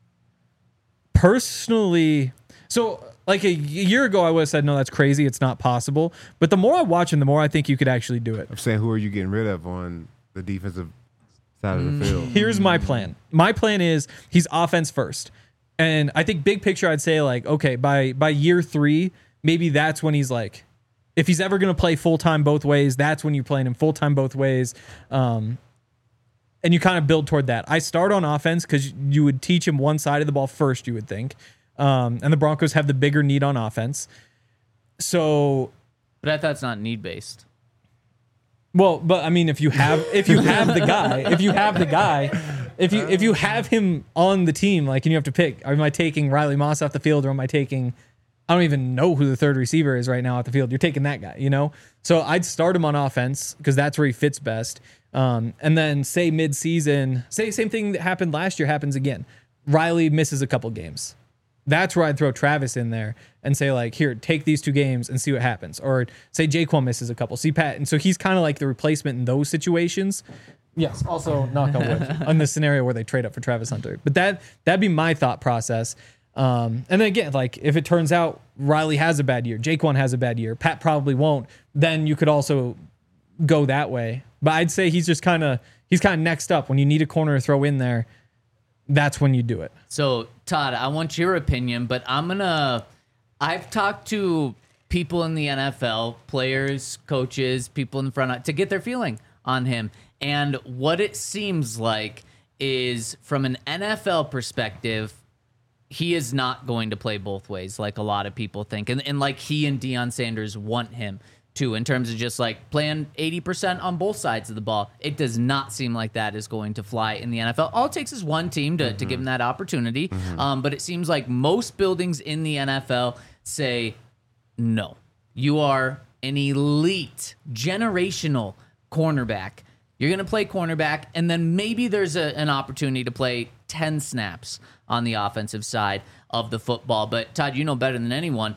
personally, so a year ago, I would have said, no, that's crazy. It's not possible. But the more I watch him, the more I think you could actually do it. I'm saying, who are you getting rid of on the defensive side of the field? Here's my plan. My plan is he's offense first. And I think big picture, I'd say okay, by year 3, maybe that's when he's if he's ever going to play full-time both ways, that's when you're playing him full-time both ways. And you kind of build toward that. I start on offense because you would teach him one side of the ball first, you would think. And the Broncos have the bigger need on offense. So, But I thought it's not need-based. well, but I mean, if you have the guy, if you have him on the team, and you have to pick, am I taking Riley Moss off the field, or am I taking, I don't even know who the 3rd receiver is right now off the field. You're taking that guy, So I'd start him on offense because that's where he fits best. And then say mid-season, same thing that happened last year happens again. Riley misses a couple games. That's where I'd throw Travis in there and say, here, take these 2 games and see what happens. Or say Jaquan misses a couple. See Pat. And so he's kind of the replacement in those situations. Yes, also knock on wood on the scenario where they trade up for Travis Hunter. But that'd be my thought process. And then again, if it turns out Riley has a bad year, Jaquan has a bad year, Pat probably won't, then you could also go that way. But I'd say he's kind of next up. When you need a corner to throw in there, that's when you do it. So, Todd, I want your opinion, but I've talked to people in the NFL, players, coaches, people in the front, to get their feeling on him. And what it seems like is, from an NFL perspective, he is not going to play both ways like a lot of people think. And he and Deion Sanders want him to, in terms of just playing 80% on both sides of the ball. It does not seem like that is going to fly in the NFL. All it takes is one team to give him that opportunity. But it seems like most buildings in the NFL say, no, you are an elite, generational cornerback. You're going to play cornerback, and then maybe there's an opportunity to play 10 snaps on the offensive side of the football. But Todd, you know better than anyone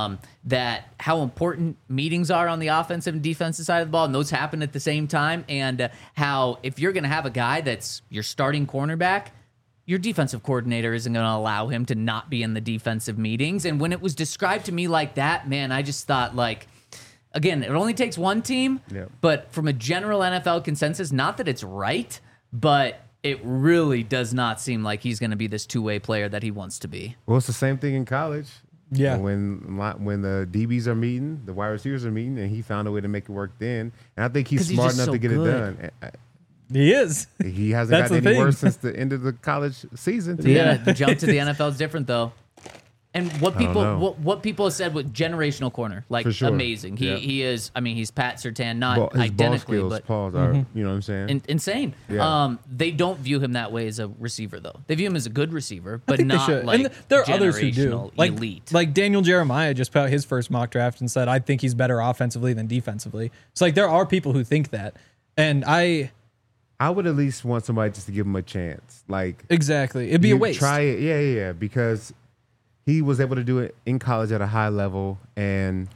that how important meetings are on the offensive and defensive side of the ball, and those happen at the same time, and how if you're going to have a guy that's your starting cornerback, your defensive coordinator isn't going to allow him to not be in the defensive meetings. And when it was described to me like that, man, I just thought, like, again, it only takes one team, but from a general NFL consensus, not that it's right, but it really does not seem like he's going to be this two-way player that he wants to be. Well, it's the same thing in college. Yeah. When the DBs are meeting, the wide receivers are meeting, and he found a way to make it work then. And I think he's 'Cause he's smart just enough so to get good. it done. He is. He hasn't That's gotten the any thing. worse since the end of the college season. The jump to the NFL is different, though. And what people know. what people have said with generational corner, like, For sure. amazing. Yeah. He is. I mean, he's Pat Surtain, not His ball identically, skills, but Paul's are, you know what I'm saying? insane. Yeah. They don't view him that way as a receiver, though. They view him as a good receiver, I but think they not should. like And there are others who do. generational Like, elite. like Daniel Jeremiah just put out his first mock draft and said, I think he's better offensively than defensively. It's like there are people who think that. And I would at least want somebody just to give him a chance. Like, exactly. It'd be a you waste. Try it. Yeah. Because he was able to do it in college at a high level, and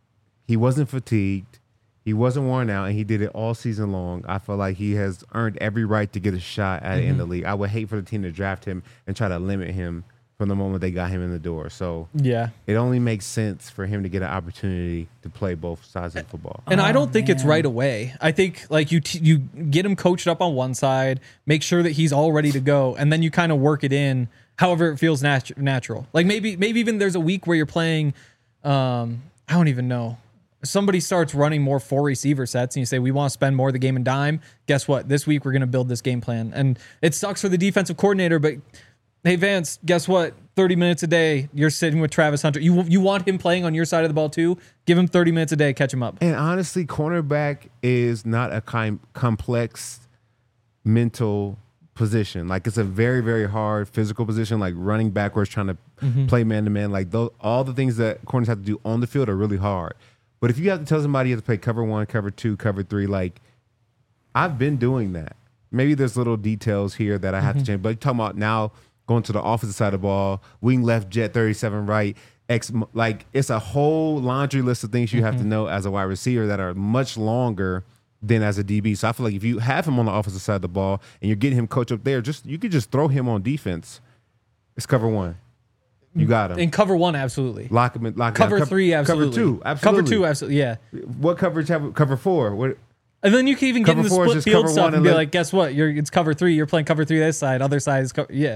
he wasn't fatigued. He wasn't worn out, and he did it all season long. I feel like he has earned every right to get a shot at in the league. I would hate for the team to draft him and try to limit him from the moment they got him in the door. So Yeah. it only makes sense for him to get an opportunity to play both sides of football. And I don't think it's right away. I think like you get him coached up on one side, make sure that he's all ready to go, and then you kind of work it in however it feels natural. Like maybe even there's a week where you're playing, I don't even know. Somebody starts running more 4 receiver sets, and you say we want to spend more of the game and dime. Guess what? This week we're going to build this game plan, and it sucks for the defensive coordinator, but. Hey, Vance, guess what? 30 minutes a day, you're sitting with Travis Hunter. You want him playing on your side of the ball too? Give him 30 minutes a day, catch him up. And honestly, cornerback is not a complex mental position. Like, it's a very, very hard physical position, like running backwards, trying to play man-to-man. Like, all the things that corners have to do on the field are really hard. But if you have to tell somebody you have to play cover 1, cover 2, cover 3, like, I've been doing that. Maybe there's little details here that I have to change. But you're talking about now going to the offensive side of the ball, wing left, jet 37 right, like it's a whole laundry list of things you have to know as a wide receiver that are much longer than as a DB. So I feel like if you have him on the offensive side of the ball and you're getting him coached up there, you could just throw him on defense. It's cover 1. You got him. In cover 1, absolutely. Lock him in. Cover down. 3, absolutely. Cover 2, absolutely. Cover 2, absolutely. Yeah. What coverage have cover 4? What? And then you can even get Cover into 4 is split just field cover stuff 1 and be and like, guess what? It's cover 3. You're playing cover 3 this side. Other side is yeah.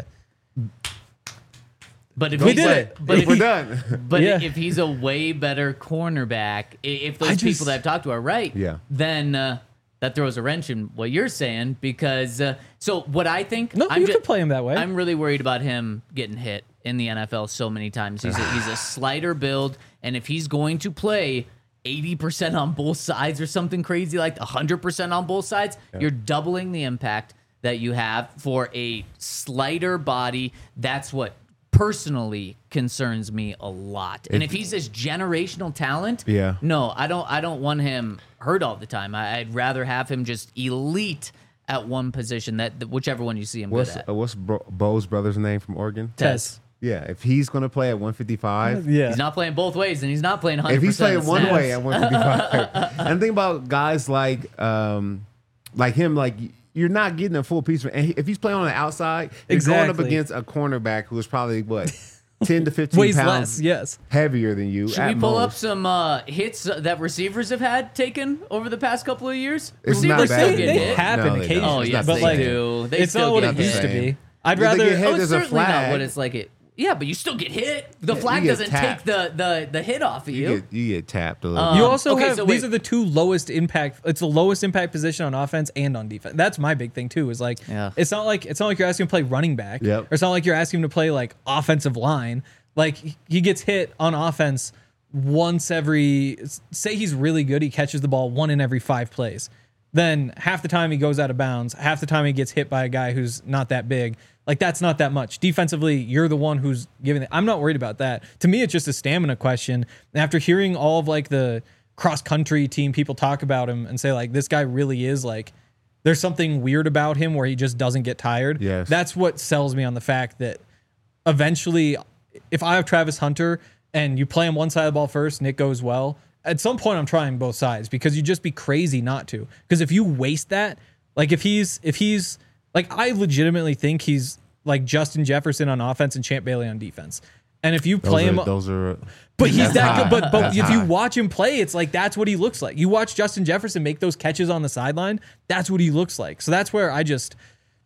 But if We he's did it. But if, We're done. But Yeah. if he's a way better cornerback, if those I just- people that I've talked to are right, Yeah. then that throws a wrench in what you're saying. Because so what I think, No, I'm you ju- could play him that way. I'm really worried about him getting hit in the NFL so many times. He's a slider build, and if he's going to play 80% on both sides or something crazy like 100% on both sides, you're doubling the impact that you have for a slider body. That's what personally concerns me a lot. And if he's this generational talent, Yeah. no, I don't want him hurt all the time. I'd rather have him just elite at one position, that whichever one you see him good at. What's Bo's brother's name from Oregon? Tess. Yeah, if he's going to play at 155, Yeah. He's not playing both ways, and he's not playing 100%. if he's playing of one snaps. way at 155, and think about guys like him, like you're not getting a full piece. And if he's playing on the outside, you're going up Exactly. against a cornerback who's probably what 10 to 15 Weighs pounds less, yes. heavier than you. Should at we pull up most. some hits that receivers have had taken over the past couple of years? It's Receivers not still bad. get They hit. happen No, they don't. occasionally. Oh, It's yes, not they the same. do. They It's still not what get it the used to same. be. I'd If they rather. get hit, Oh, it's there's a certainly not flag. what it's like. Yeah, but you still get hit. The Yeah, flag you get doesn't tapped. take the hit off of you. You get tapped a little. You bit. also okay, have so these wait. are the two lowest impact. It's the lowest impact position on offense and on defense. That's my big thing too. Is like Yeah. it's not like you're asking him to play running back. Yep. Or it's not like you're asking him to play like offensive line. Like he gets hit on offense once every. Say he's really good. He catches the ball 1 in every 5 plays. Then half the time he goes out of bounds. Half the time he gets hit by a guy who's not that big. Like that's not that much. Defensively, you're the one who's giving it. I'm not worried about that. To me, it's just a stamina question. And after hearing all of like the cross country team people talk about him and say like this guy really is like there's something weird about him where he just doesn't get tired. Yes. That's what sells me on the fact that eventually, if I have Travis Hunter and you play him one side of the ball first and it goes well, at some point I'm trying both sides because you'd just be crazy not to. Because if you waste that, like if he's like, I legitimately think he's like Justin Jefferson on offense and Champ Bailey on defense. And if you play him, but he's that good. But if you watch him play, it's like that's what he looks like. You watch Justin Jefferson make those catches on the sideline, that's what he looks like. So that's where I just,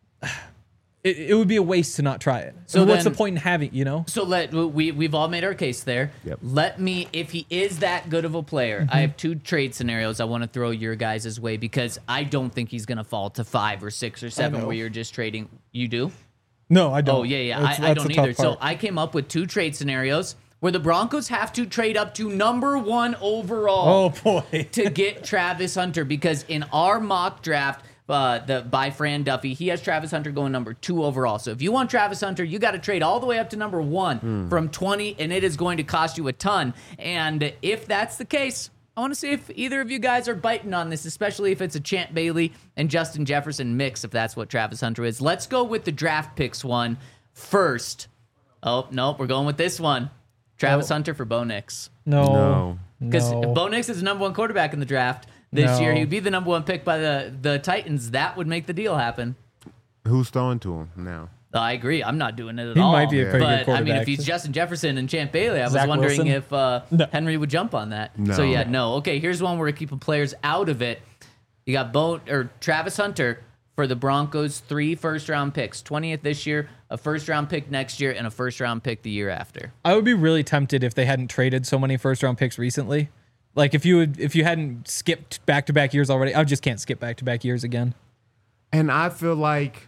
it would be a waste to not try it. So what's the point in having, you know? So we've all made our case there. Yep. Let me, if he is that good of a player, I have 2 trade scenarios I want to throw your guys' way because I don't think he's going to fall to 5 or 6 or 7 where you're just trading. You do? No, I don't. Oh, yeah. I don't either. So I came up with 2 trade scenarios where the Broncos have to trade up to number 1 overall to get Travis Hunter because in our mock draft, by Fran Duffy, he has Travis Hunter going number 2 overall. So if you want Travis Hunter, you got to trade all the way up to number 1 from 20, and it is going to cost you a ton. And if that's the case, I want to see if either of you guys are biting on this, especially if it's a Champ Bailey and Justin Jefferson mix, if that's what Travis Hunter is. Let's go with the draft picks one first. Oh, no, we're going with this one. Travis Hunter for Bo Nix. No. Because if Bo Nix is the number 1 quarterback in the draft this year, he'd be the number 1 pick by the Titans. That would make the deal happen. Who's throwing to him now? I agree. I'm not doing it at He all. might be a pretty good But I quarterback. mean, if he's Justin Jefferson and Champ Bailey, I was Zach wondering Wilson? if Henry would jump on that. No. So yeah, no. Okay, here's one where we're keeping players out of it. You got Travis Hunter for the Broncos, 3 first-round picks, 20th this year, a first-round pick next year, and a first-round pick the year after. I would be really tempted if they hadn't traded so many first-round picks recently. Like if you hadn't skipped back-to-back years already, I just can't skip back-to-back years again. And I feel like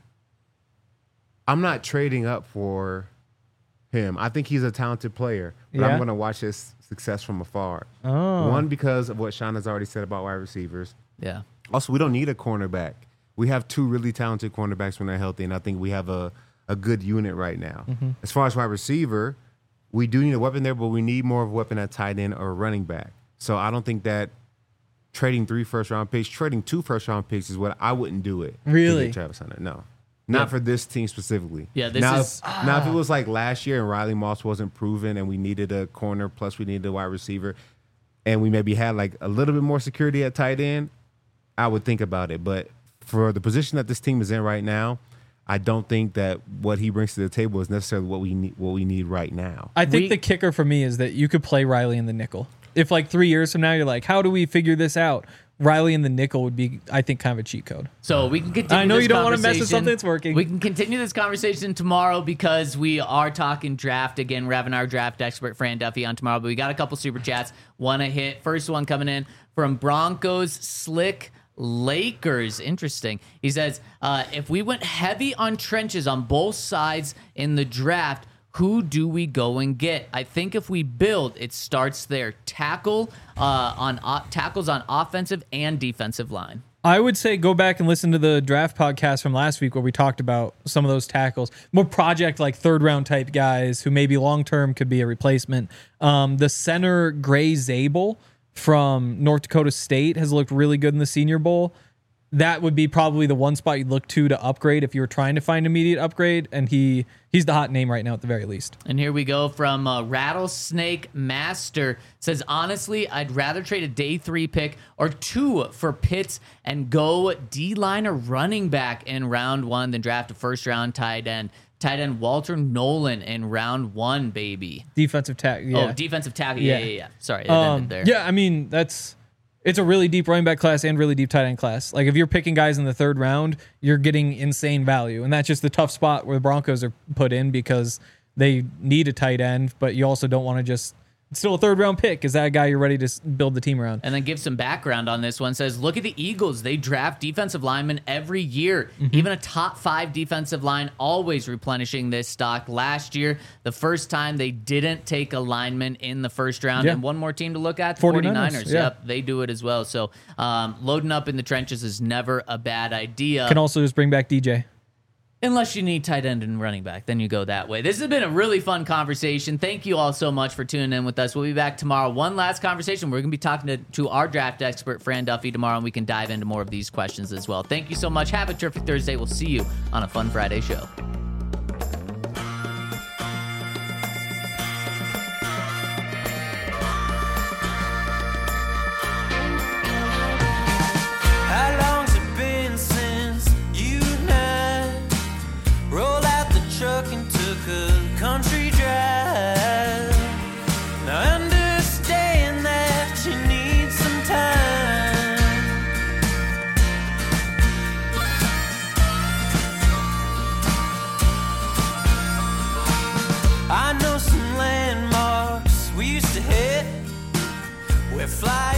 I'm not trading up for him. I think he's a talented player, but I'm going to watch his success from afar. One, because of what Sean has already said about wide receivers. Yeah. Also, we don't need a cornerback. We have 2 really talented cornerbacks when they're healthy, and I think we have a good unit right now. As far as wide receiver, we do need a weapon there, but we need more of a weapon at tight end or running back. So I don't think that trading 3 first-round picks, trading 2 first-round picks is what I wouldn't do it. Really? To get Travis Hunter. No. Not for this team specifically. Yeah, now, if it was like last year and Riley Moss wasn't proven and we needed a corner plus we needed a wide receiver and we maybe had like a little bit more security at tight end, I would think about it. But for the position that this team is in right now, I don't think that what he brings to the table is necessarily what we need right now. I think the kicker for me is that you could play Riley in the nickel. If like 3 years from now you're like, how do we figure this out? Riley in the nickel would be, I think, kind of a cheat code. So we can continue. I know this you don't want to mess with conversation. something that's working. We can continue this conversation tomorrow because we are talking draft again. We're having our draft expert Fran Duffy on tomorrow, but we got a couple super chats. Want to hit first one coming in from Broncos Slick Lakers. Interesting. He says, if we went heavy on trenches on both sides in the draft, who do we go and get? I think if we build, it starts there. Tackles on offensive and defensive line. I would say go back and listen to the draft podcast from last week where we talked about some of those tackles. More project like 3rd-round type guys who maybe long-term could be a replacement. The center Gray Zabel from North Dakota State has looked really good in the Senior Bowl. That would be probably the one spot you'd look to upgrade if you were trying to find immediate upgrade, and he's the hot name right now at the very least. And here we go from Rattlesnake Master. Says, honestly, I'd rather trade a day 3 pick or 2 for Pitts and go D-line or running back in round 1 than draft a first-round tight end. Tight end Walter Nolan in round 1, baby. Defensive tackle. Yeah. Oh, defensive tackle. Yeah. Sorry, it ended there. Yeah, I mean, it's a really deep running back class and really deep tight end class. Like if you're picking guys in the 3rd round, you're getting insane value. And that's just the tough spot where the Broncos are put in because they need a tight end, but you also don't want to just It's still a third-round pick. Is that a guy you're ready to build the team around? And then give some background on this one. Says, look at the Eagles. They draft defensive linemen every year. Mm-hmm. Even a top 5 defensive line, always replenishing this stock. Last year, the first time they didn't take a lineman in the first round. Yeah. And one more team to look at, the 49ers. Yeah. Yep, they do it as well. So loading up in the trenches is never a bad idea. Can also just bring back DJ. Unless you need tight end and running back, then you go that way. This has been a really fun conversation. Thank you all so much for tuning in with us. We'll be back tomorrow. One last conversation. We're going to be talking to our draft expert, Fran Duffy, tomorrow, and we can dive into more of these questions as well. Thank you so much. Have a terrific Thursday. We'll see you on a fun Friday show. How long's it been since you and I rolled out the truck and took a country drive? Now I understand that you need some time. I know some landmarks we used to hit where fly